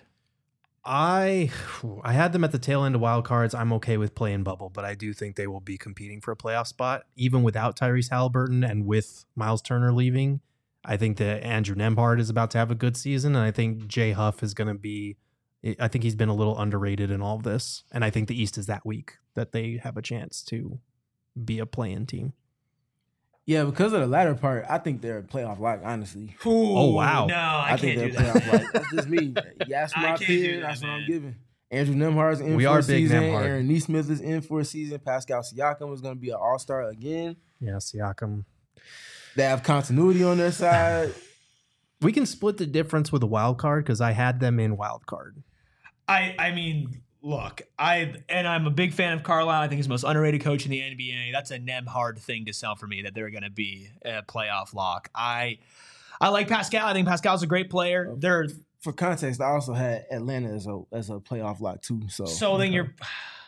I I had them at the tail end of wild cards. I'm okay with playing bubble, but I do think they will be competing for a playoff spot, even without Tyrese Halliburton and with Miles Turner leaving. I think that Andrew Nembhard is about to have a good season, and I think Jay Huff is going to be. I think he's been a little underrated in all of this, and I think the East is that weak that they have a chance to be a play-in team. Yeah, because of the latter part, I think they're a playoff lock, honestly. Oh, wow. No, I, I, can't think do they're a that. playoff lock. That's just me. You ask I my can't do opinion, that, that's what man. I'm giving. Andrew Nembhard's in We for are a big season. Nembhard. Aaron Nesmith is in for a season. Pascal Siakam is going to be an all-star again. Yeah, Siakam. They have continuity on their side. We can split the difference with a wild card because I had them in wild card. I I mean, look, I and I'm a big fan of Carlisle. I think he's the most underrated coach in the N B A. That's a Nembhard thing to sell for me that they're going to be a playoff lock. I I like Pascal. I think Pascal's a great player. They're For context, I also had Atlanta as a as a playoff lock too. So, so then you're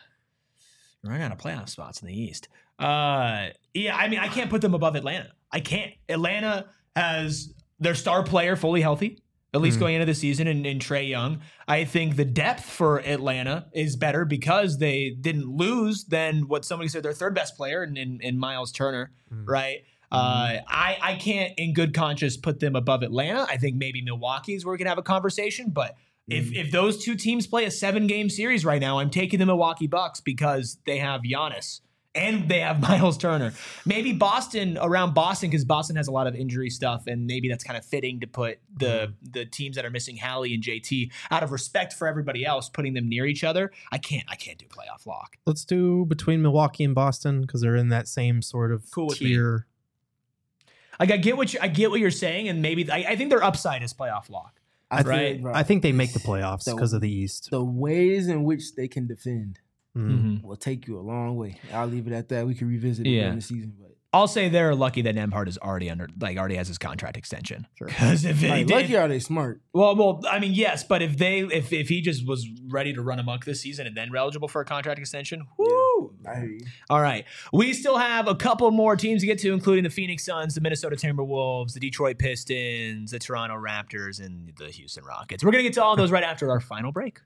you're running out of playoff spots in the East. Uh, yeah, I mean, I can't put them above Atlanta. I can't. Atlanta has their star player fully healthy, at least Mhm. going into the season, in, in Trae Young. I think the depth for Atlanta is better because they didn't lose than what somebody said their third best player in, in, in Miles Turner, Mhm. right? Uh, I, I can't in good conscience put them above Atlanta. I think maybe Milwaukee is where we can have a conversation, but if if those two teams play a seven game series right now, I'm taking the Milwaukee Bucks because they have Giannis and they have Miles Turner. Maybe Boston around Boston because Boston has a lot of injury stuff, and maybe that's kind of fitting to put the the teams that are missing Hallie and J T out of respect for everybody else, putting them near each other. I can't I can't do playoff lock. Let's do between Milwaukee and Boston because they're in that same sort of Cool with me. tier. Like I get what you, I get what you're saying, and maybe I, I think their upside is playoff lock. I feel Right. like, bro, I think they make the playoffs So- because of the East. the ways in which they can defend Mhm. will take you a long way. I'll leave it at that. We can revisit it Yeah. during the season, but I'll say they're lucky that Nembhard is already under, like already has his contract extension. Sure. Because if they like, did, lucky are they smart? well, well, I mean, yes, but if they, if if he just was ready to run amok this season and then eligible for a contract extension, whoo! I hear you. All right, we still have a couple more teams to get to, including the Phoenix Suns, the Minnesota Timberwolves, the Detroit Pistons, the Toronto Raptors, and the Houston Rockets. We're gonna get to all those right after our final break.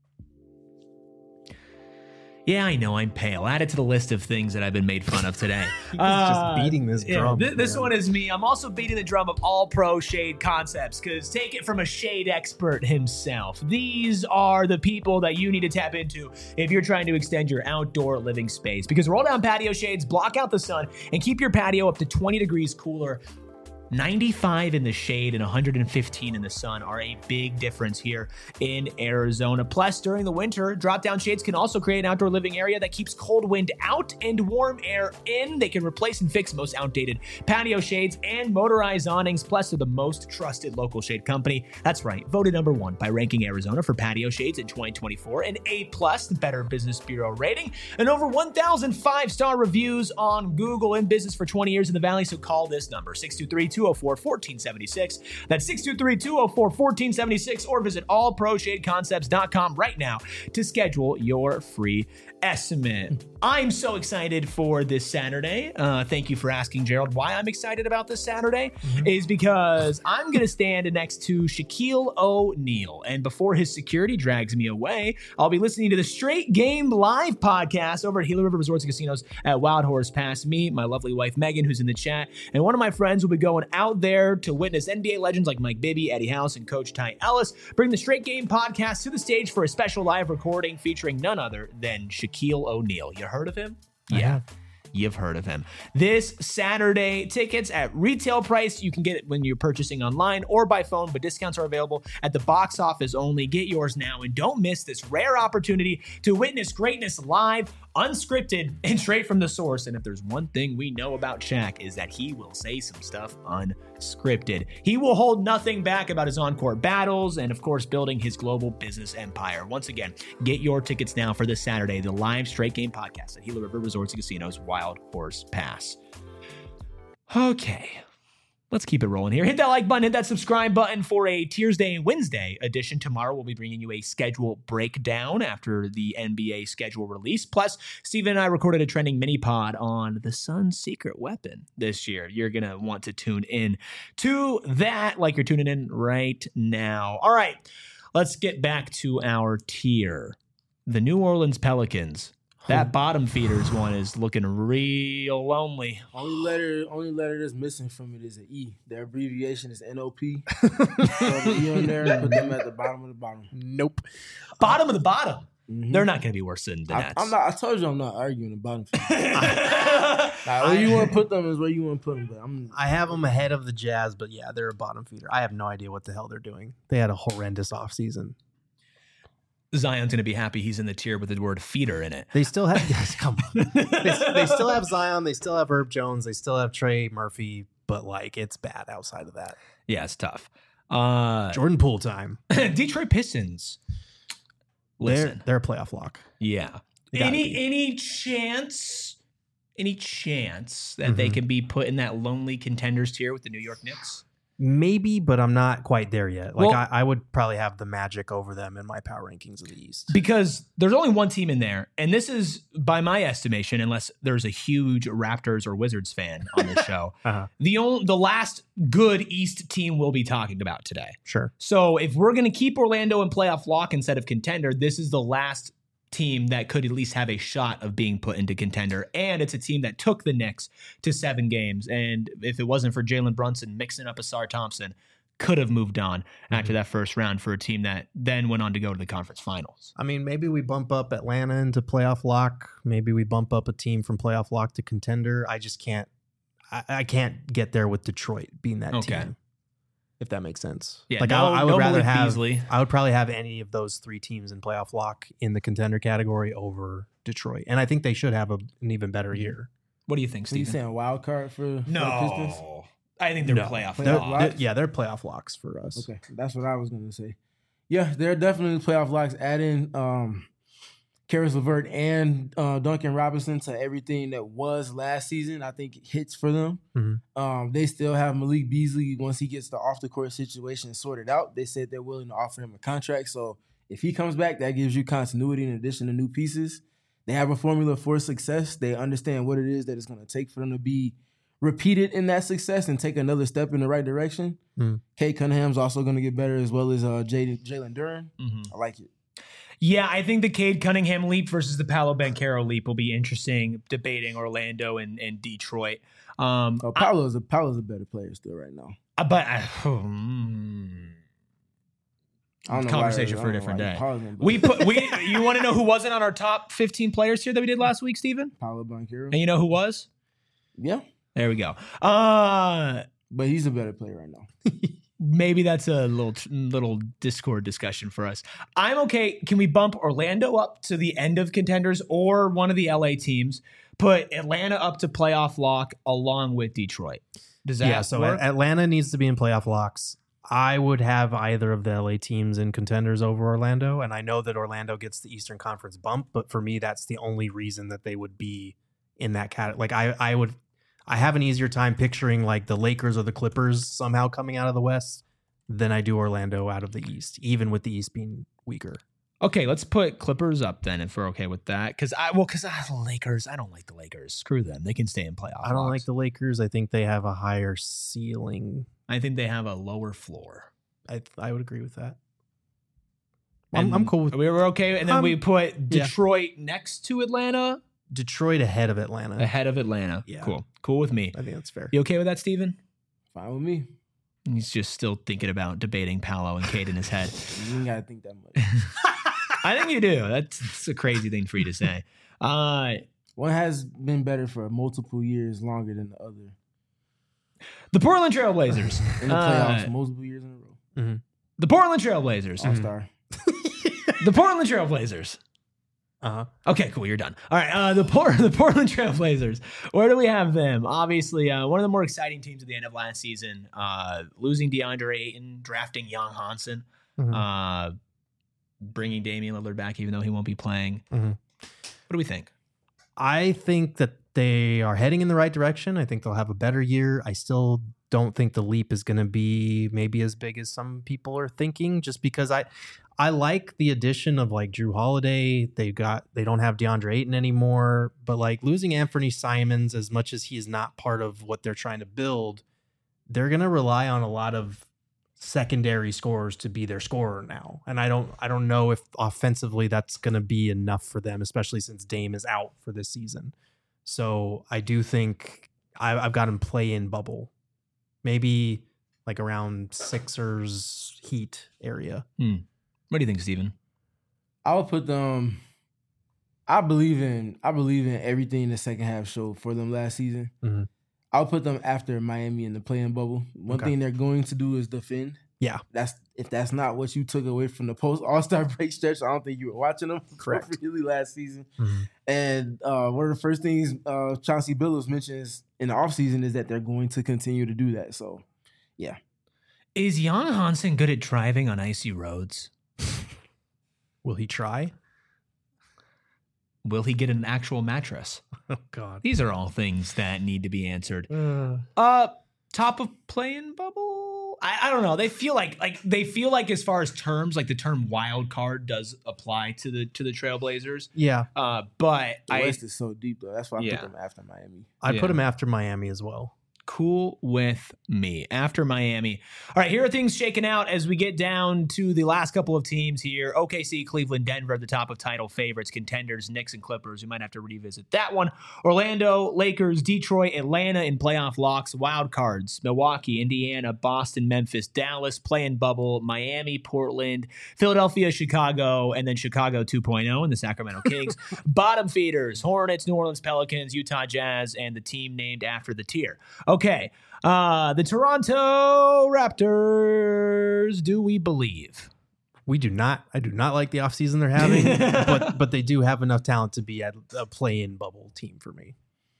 Yeah, I know I'm pale. Add it to the list of things that I've been made fun of today. He's Uh, just beating this Yeah, drum. thi- this man. one is me. I'm also beating the drum of all pro shade concepts because take it from a shade expert himself. These are the people that you need to tap into if you're trying to extend your outdoor living space because roll down patio shades, block out the sun, and keep your patio up to twenty degrees cooler. ninety-five in the shade and one hundred fifteen in the sun are a big difference here in Arizona. Plus, during the winter, drop-down shades can also create an outdoor living area that keeps cold wind out and warm air in. They can replace and fix most outdated patio shades and motorized awnings. Plus, they're the most trusted local shade company. That's right, voted number one by Ranking Arizona for patio shades in twenty twenty-four, an A-plus, the Better Business Bureau rating, and over one thousand five-star reviews on Google. In business for twenty years in the Valley, so call this number, six two three, two two oh four, one four seven six. That's six two three, two oh four, one four seven six, or visit all pro shade concepts dot com right now to schedule your free estimate. I'm so excited for this Saturday. Uh, thank you for asking, Gerald. Why I'm excited about this Saturday mm-hmm. is because I'm going to stand next to Shaquille O'Neal. And before his security drags me away, I'll be listening to the Straight Game Live podcast over at Gila River Resorts and Casinos at Wild Horse Pass. Me, my lovely wife, Megan, who's in the chat, and one of my friends will be going out there to witness N B A legends like Mike Bibby, Eddie House, and Coach Ty Ellis bring the Straight Game podcast to the stage for a special live recording featuring none other than Shaquille O'Neal. You heard of him? Yeah. You've heard of him. This Saturday, tickets at retail price. You can get it when you're purchasing online or by phone, but discounts are available at the box office only. Get yours now and don't miss this rare opportunity to witness greatness live, unscripted, and straight from the source. And if there's one thing we know about Shaq is that he will say some stuff unscripted. He will hold nothing back about his on-court battles and, of course, building his global business empire. Once again, get your tickets now for this Saturday, the live Straight Game podcast at Gila River Resorts and Casinos, Wild Horse Pass. Okay, let's keep it rolling here. Hit that like button, hit that subscribe button for a Tuesday and Wednesday edition. Tomorrow we'll be bringing you a schedule breakdown after the N B A schedule release. Plus, Steven and I recorded a trending mini pod on the Suns' secret weapon this year. You're going to want to tune in to that like you're tuning in right now. All right, let's get back to our tier. The New Orleans Pelicans. That bottom feeders one is looking real lonely. Only letter, only letter that's missing from it is an E. Their abbreviation is N O P. So the E on there, put them at the bottom of the bottom. Nope. Bottom of the bottom. Mm-hmm. They're not going to be worse than the I, Nets. I'm not. I told you I'm not arguing the bottom feeders. Nah, where you want to put them is where you want to put them. But I'm, I have them ahead of the Jazz, but yeah, they're a bottom feeder. I have no idea what the hell they're doing. They had a horrendous offseason. Zion's going to be happy he's in the tier with the word feeder in it. They still have, guys, come on. They, they still have Zion. They still have Herb Jones. They still have Trey Murphy, but like it's bad outside of that. Yeah, it's tough. Uh, Jordan Poole time. Detroit Pistons. Listen. They're, they're a playoff lock. Yeah. Any, any chance, any chance that mm-hmm. they can be put in that lonely contenders tier with the New York Knicks? Maybe, but I'm not quite there yet. Like well, I, I would probably have the Magic over them in my power rankings of the East. Because there's only one team in there, and this is by my estimation, unless there's a huge Raptors or Wizards fan on the show, uh-huh. the only the last good East team we'll be talking about today. Sure. So if we're going to keep Orlando in playoff lock instead of contender, this is the last team that could at least have a shot of being put into contender. And it's a team that took the Knicks to seven games. And if it wasn't for Jalen Brunson mixing up Asar Thompson, could have moved on mm-hmm. after that first round for a team that then went on to go to the conference finals. I mean, maybe we bump up Atlanta into playoff lock. Maybe we bump up a team from playoff lock to contender. I just can't, I, I can't get there with Detroit being that okay. team. If that makes sense. Yeah, like no, I, I would no rather Malik have, Beasley. I would probably have any of those three teams in playoff lock in the contender category over Detroit. And I think they should have a, an even better year. What do you think, Steve? Are you Steven? saying a wild card for, for no. the Pistons? I think they're no. playoff they're, locks. They're, yeah, they're playoff locks for us. Okay, that's what I was going to say. Yeah, they're definitely playoff locks. Add in um, Karis LeVert and uh, Duncan Robinson to everything that was last season, I think it hits for them. Mm-hmm. Um, they still have Malik Beasley once he gets the off-the-court situation sorted out. They said they're willing to offer him a contract. So if he comes back, that gives you continuity in addition to new pieces. They have a formula for success. They understand what it is that it's going to take for them to be repeated in that success and take another step in the right direction. Mm-hmm. Kate Cunningham's also going to get better as well as uh, Jalen Duren. Mm-hmm. I like it. Yeah, I think the Cade Cunningham leap versus the Paolo Banchero leap will be interesting, debating Orlando and, and Detroit. Um, oh, Paolo's a Paolo's a better player still right now. Uh, but I, hmm. I don't know conversation why, for a different day. Pausing, we put we. You want to know who wasn't on our top fifteen players here that we did last week, Steven? Paolo Banchero. And you know who was? Yeah. There we go. Uh, but he's a better player right now. Maybe that's a little little Discord discussion for us. I'm okay. Can we bump Orlando up to the end of contenders or one of the L A teams? Put Atlanta up to playoff lock along with Detroit. Does that yeah, so work? Atlanta needs to be in playoff locks. I would have either of the L A teams in contenders over Orlando, and I know that Orlando gets the Eastern Conference bump, but for me, that's the only reason that they would be in that category. Like I, I would, I have an easier time picturing like the Lakers or the Clippers somehow coming out of the West than I do Orlando out of the East, even with the East being weaker. Okay, let's put Clippers up then if we're okay with that. Because I well, because the Lakers, I don't like the Lakers. Screw them. They can stay in playoff. I don't box. like the Lakers. I think they have a higher ceiling. I think they have a lower floor. I I would agree with that. I'm, I'm cool with we were okay, and then um, we put yeah. Detroit next to Atlanta, Detroit ahead of Atlanta. ahead of Atlanta. Yeah. Cool, cool with me. I think that's fair. You okay with that, Steven? Fine with me. He's just still thinking about debating Paolo and Cade in his head. You ain't gotta think that much. I think you do. That's, that's a crazy thing for you to say. Uh, One has been better for multiple years longer than the other. the Portland Trailblazers. In the Uh, playoffs, multiple years in a row. Mm-hmm. the Portland Trailblazers. All star. The Portland Trailblazers. Uh-huh. Okay, cool. You're done. All right. Uh, the Port- the Portland Trailblazers. Where do we have them? Obviously, uh, one of the more exciting teams at the end of last season. Uh, losing DeAndre Ayton, drafting Jan Hansen, Mhm. uh, bringing Damian Lillard back, even though he won't be playing. Mhm. What do we think? I think that they are heading in the right direction. I think they'll have a better year. I still don't think the leap is going to be maybe as big as some people are thinking, just because I I like the addition of like Drew Holiday. They got they don't have DeAndre Ayton anymore, but like losing Anthony Simons, as much as he is not part of what they're trying to build, they're going to rely on a lot of secondary scorers to be their scorer now. And I don't I don't know if offensively that's going to be enough for them, especially since Dame is out for this season. So I do think I, I've got him play in bubble, maybe like around Sixers Heat area. Hmm. What do you think, Steven? I would put them. I believe in. I believe in everything the second half showed for them last season. Mhm. I'll put them after Miami in the play-in bubble. One Okay. thing they're going to do is defend. Yeah. That's if that's not what you took away from the post All-Star break stretch, I don't think you were watching them Correct. really last season. Mhm. And uh, one of the first things uh, Chauncey Billups mentions in the offseason is that they're going to continue to do that. So, yeah. Is Jan Hansen good at driving on icy roads? Will he try? Will he get an actual mattress? Oh God. These are all things that need to be answered. Uh, Uh, top of play-in bubble? I, I don't know. They feel like like they feel like as far as terms, like the term wild card does apply to the to the Trailblazers. yeah, Uh, but The I West is so deep, though. That's why I Yeah. put them after Miami. I Yeah. put him after Miami as well. cool with me after Miami. All right, here are things shaking out as we get down to the last couple of teams here. O K C, Cleveland, Denver, the top of title favorites, contenders, Knicks and Clippers. We might have to revisit that one. Orlando, Lakers, Detroit, Atlanta in playoff locks, wild cards, Milwaukee, Indiana, Boston, Memphis, Dallas, play-in bubble, Miami, Portland, Philadelphia, Chicago, and then Chicago two point oh and the Sacramento Kings. Bottom feeders, Hornets, New Orleans Pelicans, Utah Jazz, and the team named after the tier. Okay, uh, the Toronto Raptors, do we believe? We do not. I do not like the offseason they're having, but but they do have enough talent to be at a play-in bubble team for me.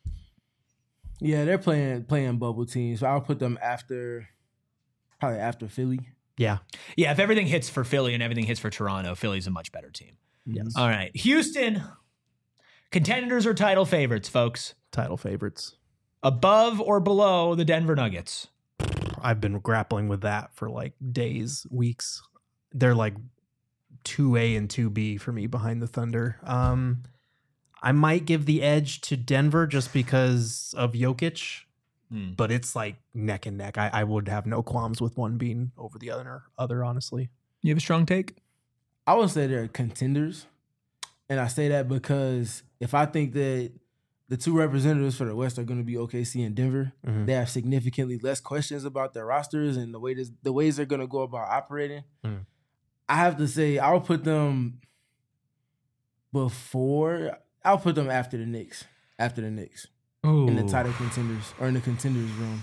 Yeah, they're playing playing bubble teams. So I'll put them after, probably after Philly. Yeah. Yeah, if everything hits for Philly and everything hits for Toronto, Philly's a much better team. Yes. All right, Houston, contenders or title favorites, folks? Title favorites. Above or below the Denver Nuggets? I've been grappling with that for like days, weeks. They're like two A and two B for me behind the Thunder. Um, I might give the edge to Denver just because of Jokic, Hmm. but it's like neck and neck. I, I would have no qualms with one being over the other, other honestly. You have a strong take? I would say they're contenders. And I say that because if I think that the two representatives for the West are going to be O K C and Denver, Mhm. they have significantly less questions about their rosters and the way this, the ways they're going to go about operating. Mm. I have to say I'll put them before. I'll put them after the Knicks. After the Knicks Ooh. in the title contenders or in the contenders room.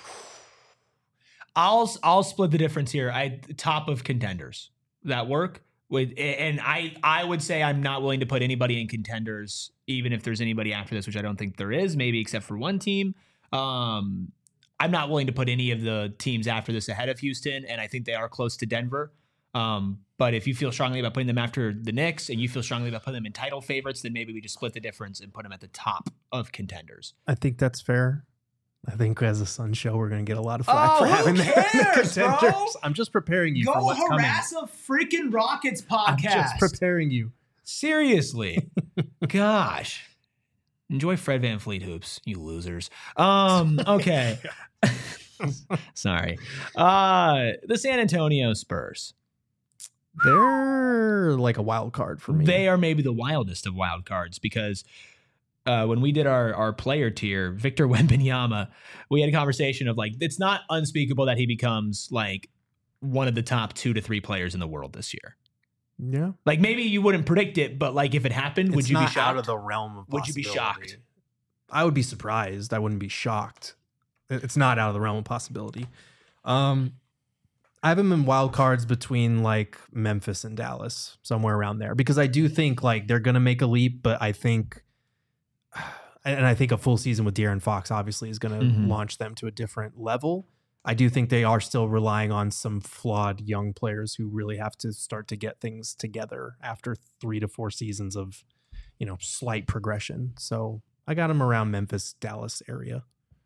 I'll I'll split the difference here. I top of contenders that work with, and I I would say I'm not willing to put anybody in contenders, even if there's anybody after this, which I don't think there is, maybe except for one team. Um, I'm not willing to put any of the teams after this ahead of Houston, and I think they are close to Denver. Um, but if you feel strongly about putting them after the Knicks, and you feel strongly about putting them in title favorites, then maybe we just split the difference and put them at the top of contenders. I think that's fair. I think as a Sun show, we're going to get a lot of flack Oh, for who having the cares, contenders. bro? I'm just preparing you Go for what's coming. harass a freaking Rockets I'm podcast. just preparing you. Seriously. Gosh. Enjoy Fred VanVleet hoops, you losers. Um, okay. Sorry. Uh, the San Antonio Spurs. They're like a wild card for me. They are maybe the wildest of wild cards because uh, when we did our, our player tier, Victor Wembanyama, we had a conversation of like, it's not unspeakable that he becomes like one of the top two to three players in the world this year. Yeah. Like maybe you wouldn't predict it, but like if it happened, would It's you be not shocked? out of the realm of Would you be possibility. shocked? I would be surprised. I wouldn't be shocked. It- It's not out of the realm of possibility. Um, I have him in wild cards between like Memphis and Dallas, somewhere around there, because I do think like they're going to make a leap, but I think, and I think a full season with De'Aaron Fox obviously is going to Mhm. launch them to a different level. I do think they are still relying on some flawed young players who really have to start to get things together after three to four seasons of, you know, slight progression. So I got them around Memphis, Dallas area.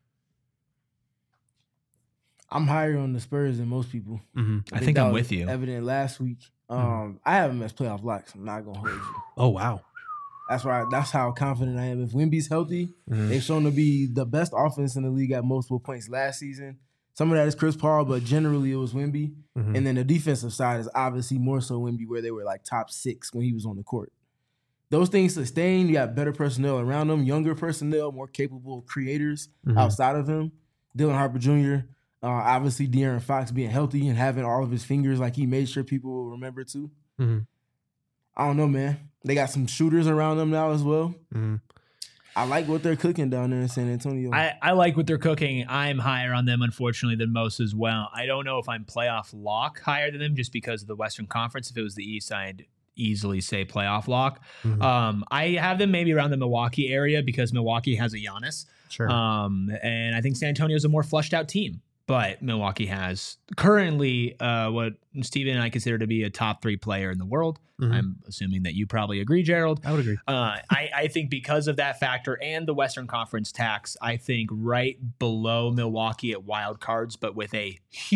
I'm higher on the Spurs than most people. Mm-hmm. I think that I'm was with you. Evident last week. Um, Mhm. I have them as playoff locks. I'm not gonna hold you. Oh, wow. That's why. That's how confident I am. If Wemby's healthy, Mhm. they've shown to be the best offense in the league at multiple points last season. Some of that is Chris Paul, but generally it was Wemby. Mhm. And then the defensive side is obviously more so Wemby, where they were like top six when he was on the court. Those things sustain. You got better personnel around them, younger personnel, more capable creators Mhm. outside of him. Dylan Harper Junior, uh, obviously De'Aaron Fox being healthy and having all of his fingers like he made sure people will remember too. Mhm. I don't know, man. They got some shooters around them now as well. Mhm. I like what they're cooking down there in San Antonio. I, I like what they're cooking. I'm higher on them, unfortunately, than most as well. I don't know if I'm playoff lock higher than them just because of the Western Conference. If it was the East, I'd easily say playoff lock. Mhm. Um, I have them maybe around the Milwaukee area because Milwaukee has a Giannis. Sure. Um, and I think San Antonio is a more fleshed out team. But Milwaukee has currently uh, what Steven and I consider to be a top three player in the world. Mhm. I'm assuming that you probably agree, Gerald. I would agree. Uh, I, I think because of that factor and the Western Conference tax, I think right below Milwaukee at wild cards, but with a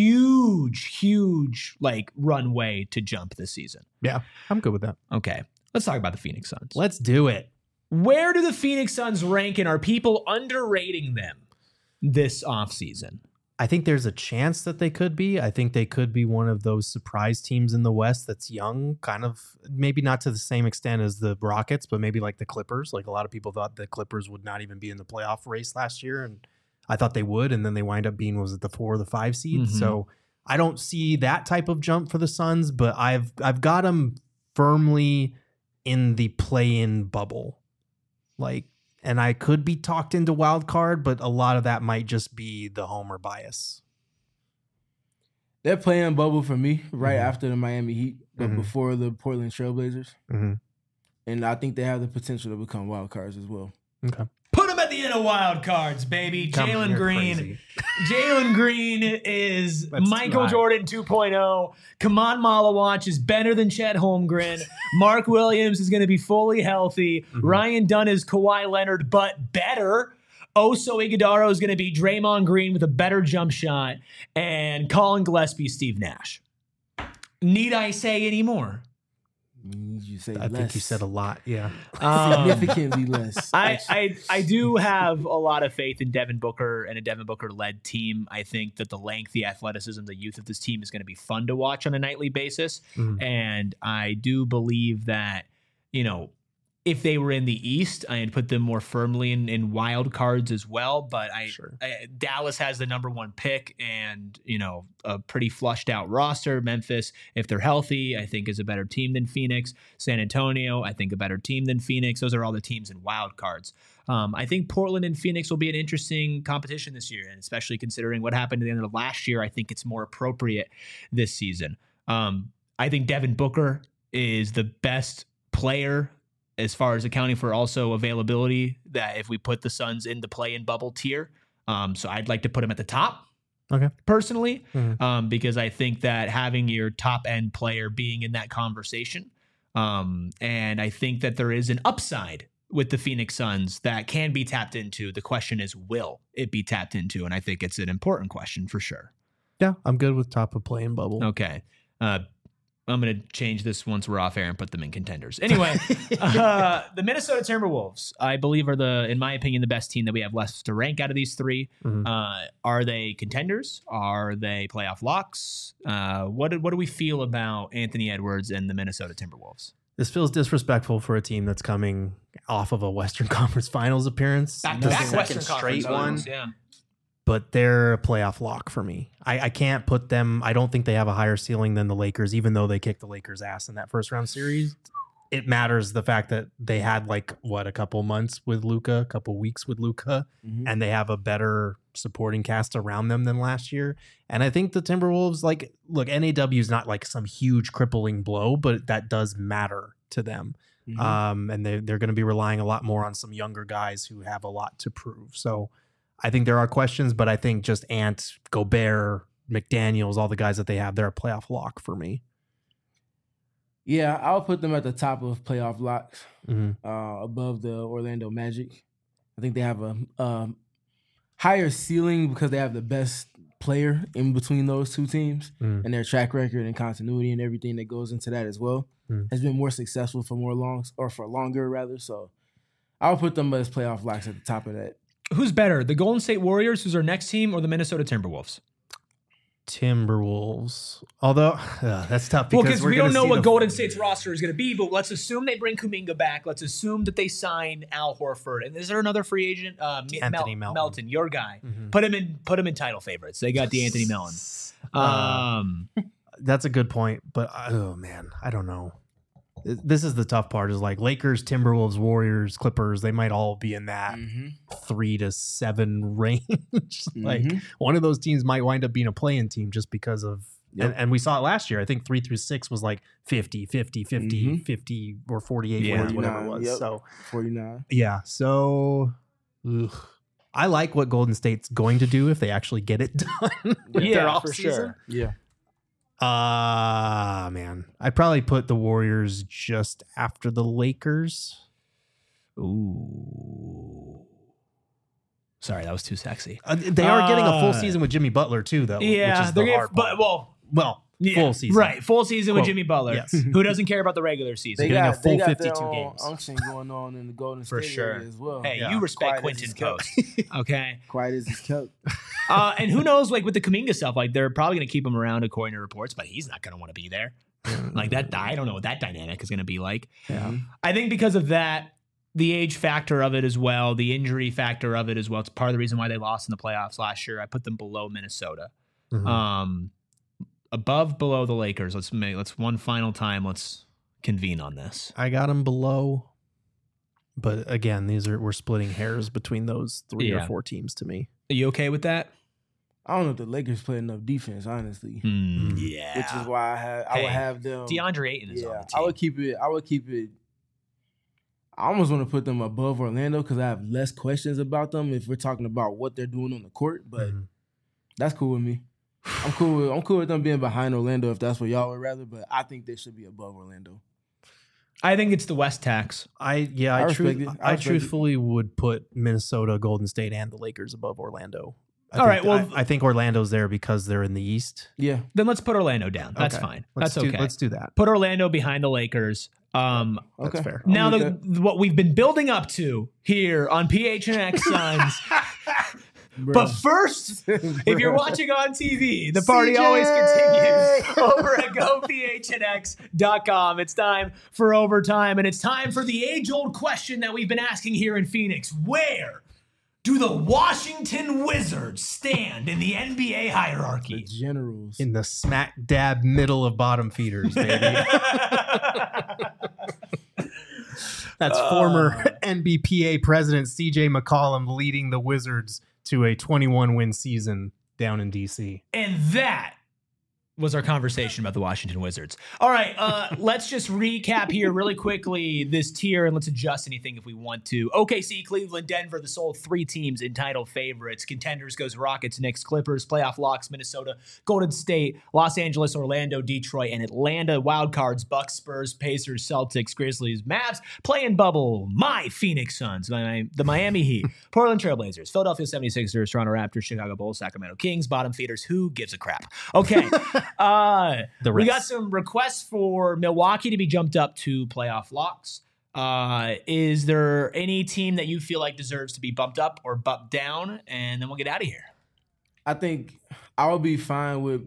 huge, huge like runway to jump this season. Yeah, I'm good with that. Okay, let's talk about the Phoenix Suns. Let's do it. Where do the Phoenix Suns rank, and are people underrating them this offseason? I think there's a chance that they could be. I think they could be one of those surprise teams in the West that's young, kind of maybe not to the same extent as the Rockets, but maybe like the Clippers. Like a lot of people thought the Clippers would not even be in the playoff race last year, and I thought they would, and then they wind up being, was it the four or the five seed? Mhm. So I don't see that type of jump for the Suns, but I've I've got them firmly in the play-in bubble. Like, and I could be talked into wild card, but a lot of that might just be the homer bias. They're playing bubble for me right Mhm. after the Miami Heat, but Mhm. before the Portland Trailblazers. Mm-hmm. And I think they have the potential to become wild cards as well. Okay. Put them at the end of wild cards, baby. Come on, Jalen you're Green. crazy. Jalen Green is That's too Michael high. Jordan two point oh. Kaman Malawach is better than Chet Holmgren. Mark Williams is going to be fully healthy. Mhm. Ryan Dunn is Kawhi Leonard, but better. Oso Iguodala is going to be Draymond Green with a better jump shot. And Colin Gillespie, Steve Nash. Need I say any more? You say I less. think you said a lot. Yeah. Um, significantly less. I, I I do have a lot of faith in Devin Booker and a Devin Booker led team. I think that the length, the athleticism, the youth of this team is going to be fun to watch on a nightly basis. Mhm. And I do believe that, you know, if they were in the East, I'd put them more firmly in, in wild cards as well. But I, Sure. I Dallas has the number one pick and, you know, a pretty flushed out roster. Memphis, if they're healthy, I think is a better team than Phoenix. San Antonio, I think a better team than Phoenix. Those are all the teams in wild cards. Um, I think Portland and Phoenix will be an interesting competition this year, and especially considering what happened at the end of last year, I think it's more appropriate this season. Um, I think Devin Booker is the best player as far as accounting for also availability, that if we put the Suns in the play-in bubble tier. Um, so I'd like to put him at the top. Okay. Personally, Mhm. um, because I think that having your top end player being in that conversation, um, and I think that there is an upside with the Phoenix Suns that can be tapped into. The question is, will it be tapped into? And I think it's an important question for sure. Yeah, I'm good with top of play-in bubble. Okay. Uh, I'm going to change this once we're off air and put them in contenders. Anyway, uh, the Minnesota Timberwolves, I believe, are the, in my opinion, the best team that we have left to rank out of these three. Mhm. Uh, are they contenders? Are they playoff locks? Uh, what, do- what do we feel about Anthony Edwards and the Minnesota Timberwolves? This feels disrespectful for a team that's coming off of a Western Conference Finals appearance. Back The to back second Western straight Conference one. Finals, yeah. But they're a playoff lock for me. I, I can't put them. I don't think they have a higher ceiling than the Lakers, even though they kicked the Lakers' ass in that first round series. It matters the fact that they had like what a couple months with Luka, a couple weeks with Luka, Mhm. and they have a better supporting cast around them than last year. And I think the Timberwolves, like, look, N A W is not like some huge crippling blow, but that does matter to them. Mhm. Um, and they, they're going to be relying a lot more on some younger guys who have a lot to prove. So I think there are questions, but I think just Ant, Gobert, McDaniels, all the guys that they have, they're a playoff lock for me. Yeah, I'll put them at the top of playoff locks, Mhm. uh, above the Orlando Magic. I think they have a um, higher ceiling because they have the best player in between those two teams, Mm. and their track record and continuity and everything that goes into that as well Mm. has been more successful for more longs or for longer rather. So I'll put them as playoff locks at the top of that. Who's better, the Golden State Warriors, who's our next team, or the Minnesota Timberwolves? Timberwolves. Although uh, that's tough Well, because because we're we don't gonna know see what the- Golden State's roster is going to be, but let's assume they bring Kuminga back. Let's assume that they sign Al Horford. And is there another free agent? Uh, M- Anthony Mel- Melton. Melton, your guy. Mhm. Put him in. Put him in title favorites. They got the Anthony Melton. Um, That's a good point, but oh man, I don't know. This is the tough part. Is like Lakers, Timberwolves, Warriors, Clippers. They might all be in that Mm-hmm. three to seven range. Like Mhm. one of those teams might wind up being a play-in team just because of. Yep. And, and we saw it last year. I think three through six was like fifty, fifty, fifty, Mhm. fifty, or forty-eight Yeah. wins, whatever it was. Yep. So forty-nine. yeah. So ugh. I like what Golden State's going to do if they actually get it done. with Yeah, their for offseason. sure. Yeah. Uh man, I'd probably put the Warriors just after the Lakers. ooh. Sorry, that was too sexy. Uh, they are getting a full Uh, season with Jimmy Butler too, though. Yeah, which is they're the gonna- hard but part. well, well, yeah, full season, right? Full season with Quote, Jimmy Butler, yes. who doesn't care about the regular season. They getting a got, full they got fifty-two their own games. unction going on in the Golden For State sure. area as well. Hey, Yeah. you respect Quiet as Quentin it's kept. Post, okay? Quiet as it's kept. Uh, and who knows, like with the Kuminga stuff, like they're probably going to keep him around according to reports, but he's not going to want to be there. Like that, I don't know what that dynamic is going to be like. Yeah. I think because of that, the age factor of it as well, the injury factor of it as well. It's part of the reason why they lost in the playoffs last year. I put them below Minnesota, Mhm. um, above below the Lakers. Let's make let's one final time. Let's convene on this. I got them below, but again, these are we're splitting hairs between those three Yeah. or four teams to me. Are you okay with that? I don't know if the Lakers play enough defense, honestly. Hmm, Mm. yeah, Which is why I have I Hey, would have them. DeAndre Ayton is on Yeah, the team. I would keep it. I would keep it. I almost want to put them above Orlando because I have less questions about them if we're talking about what they're doing on the court. But Mhm. that's cool with me. I'm cool. With, I'm cool with them being behind Orlando if that's what y'all would rather. But I think they should be above Orlando. I think it's the West tax. I yeah, I I, respect truth, it. I I, respect it. truthfully would put Minnesota, Golden State, and the Lakers above Orlando. I All think- right, well- I, I think Orlando's there because they're in the East. Yeah, Then let's put Orlando down. That's Okay. fine. Let's That's do, okay. let's do that. Put Orlando behind the Lakers. Um, That's okay. fair. I'm now, with the, what we've been building up to here on P H N X Suns. Bruh. But first, if you're Bruh. watching on T V, the party C J! always continues over at go P H N X dot com. It's time for overtime, and it's time for the age-old question that we've been asking here in Phoenix. Where do the Washington Wizards stand in the N B A the hierarchy? Generals. In the smack dab middle of bottom feeders, baby. That's former N B P A president C J McCollum leading the Wizards to a twenty-one win season down in D C. And that was our conversation about the Washington Wizards. All right, uh, let's just recap here really quickly this tier, and let's adjust anything if we want to. O K C, Cleveland, Denver, the sole three teams in title favorites. Contenders goes Rockets, Knicks, Clippers. Playoff locks, Minnesota, Golden State, Los Angeles, Orlando, Detroit, and Atlanta. Wildcards, Bucks, Spurs, Pacers, Celtics, Grizzlies, Mavs. Play-in bubble, my Phoenix Suns, my, the Miami Heat, Portland Trailblazers, Philadelphia seventy-sixers, Toronto Raptors, Chicago Bulls, Sacramento Kings, bottom feeders. Who gives a crap? Okay. Uh, we got some requests for Milwaukee to be jumped up to playoff locks. Uh, is there any team that you feel like deserves to be bumped up or bumped down? And then we'll get out of here. I think I would be fine with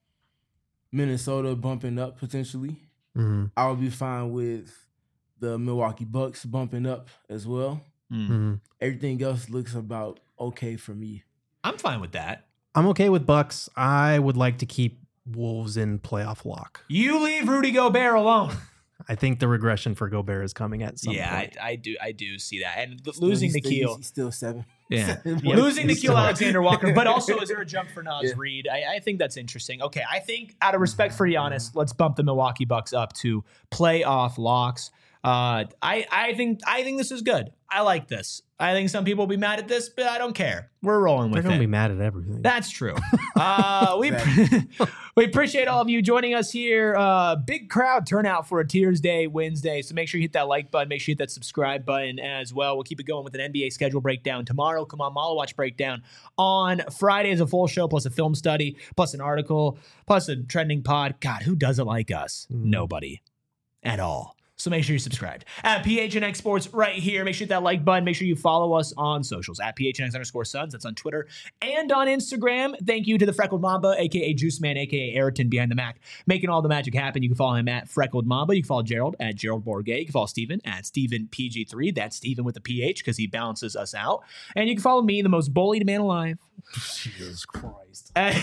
Minnesota bumping up potentially. Mm-hmm. I would be fine with the Milwaukee Bucks bumping up as well. Mm-hmm. Everything else looks about okay for me. I'm fine with that. I'm okay with Bucks. I would like to keep Wolves in playoff lock. You leave Rudy Gobert alone. I think the regression for Gobert is coming at some yeah, point. I, I do. I do see that. And th- Still, losing he's the still, keel. He's still seven. Yeah. seven yeah. points. Losing the He's keel still- Alexander Walker. But also, is there a jump for Naz Yeah. Reid? I, I think that's interesting. Okay, I think out of respect for Giannis, let's bump the Milwaukee Bucks up to playoff locks. Uh, I, I think I think this is good. I like this. I think some people will be mad at this, but I don't care. We're rolling They're with going it. to be mad at everything. That's true. Uh, we we appreciate all of you joining us here. Uh, big crowd turnout for a Tears Day Wednesday. So make sure you hit that like button. Make sure you hit that subscribe button as well. We'll keep it going with an N B A schedule breakdown tomorrow. Come on, Malo Watch breakdown on Friday is a full show plus a film study plus an article plus a trending pod. God, who doesn't like us? Mm. Nobody at all. So make sure you're subscribed at P H N X Sports right here. Make sure you hit that like button. Make sure you follow us on socials at P H N X underscore Suns. That's on Twitter and on Instagram. Thank you to the Freckled Mamba, a k a. Juice Man, a k a. Ayrton behind the Mac, making all the magic happen. You can follow him at Freckled Mamba. You can follow Gerald at Gerald Bourget. You can follow Steven at Steven P G three. That's Steven with the P H because he balances us out. And you can follow me, the most bullied man alive. Jesus Christ. At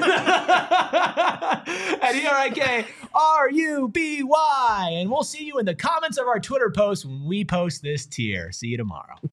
E R I K R U B Y. And we'll see you in the comments of our Twitter post when we post this tier. See you tomorrow.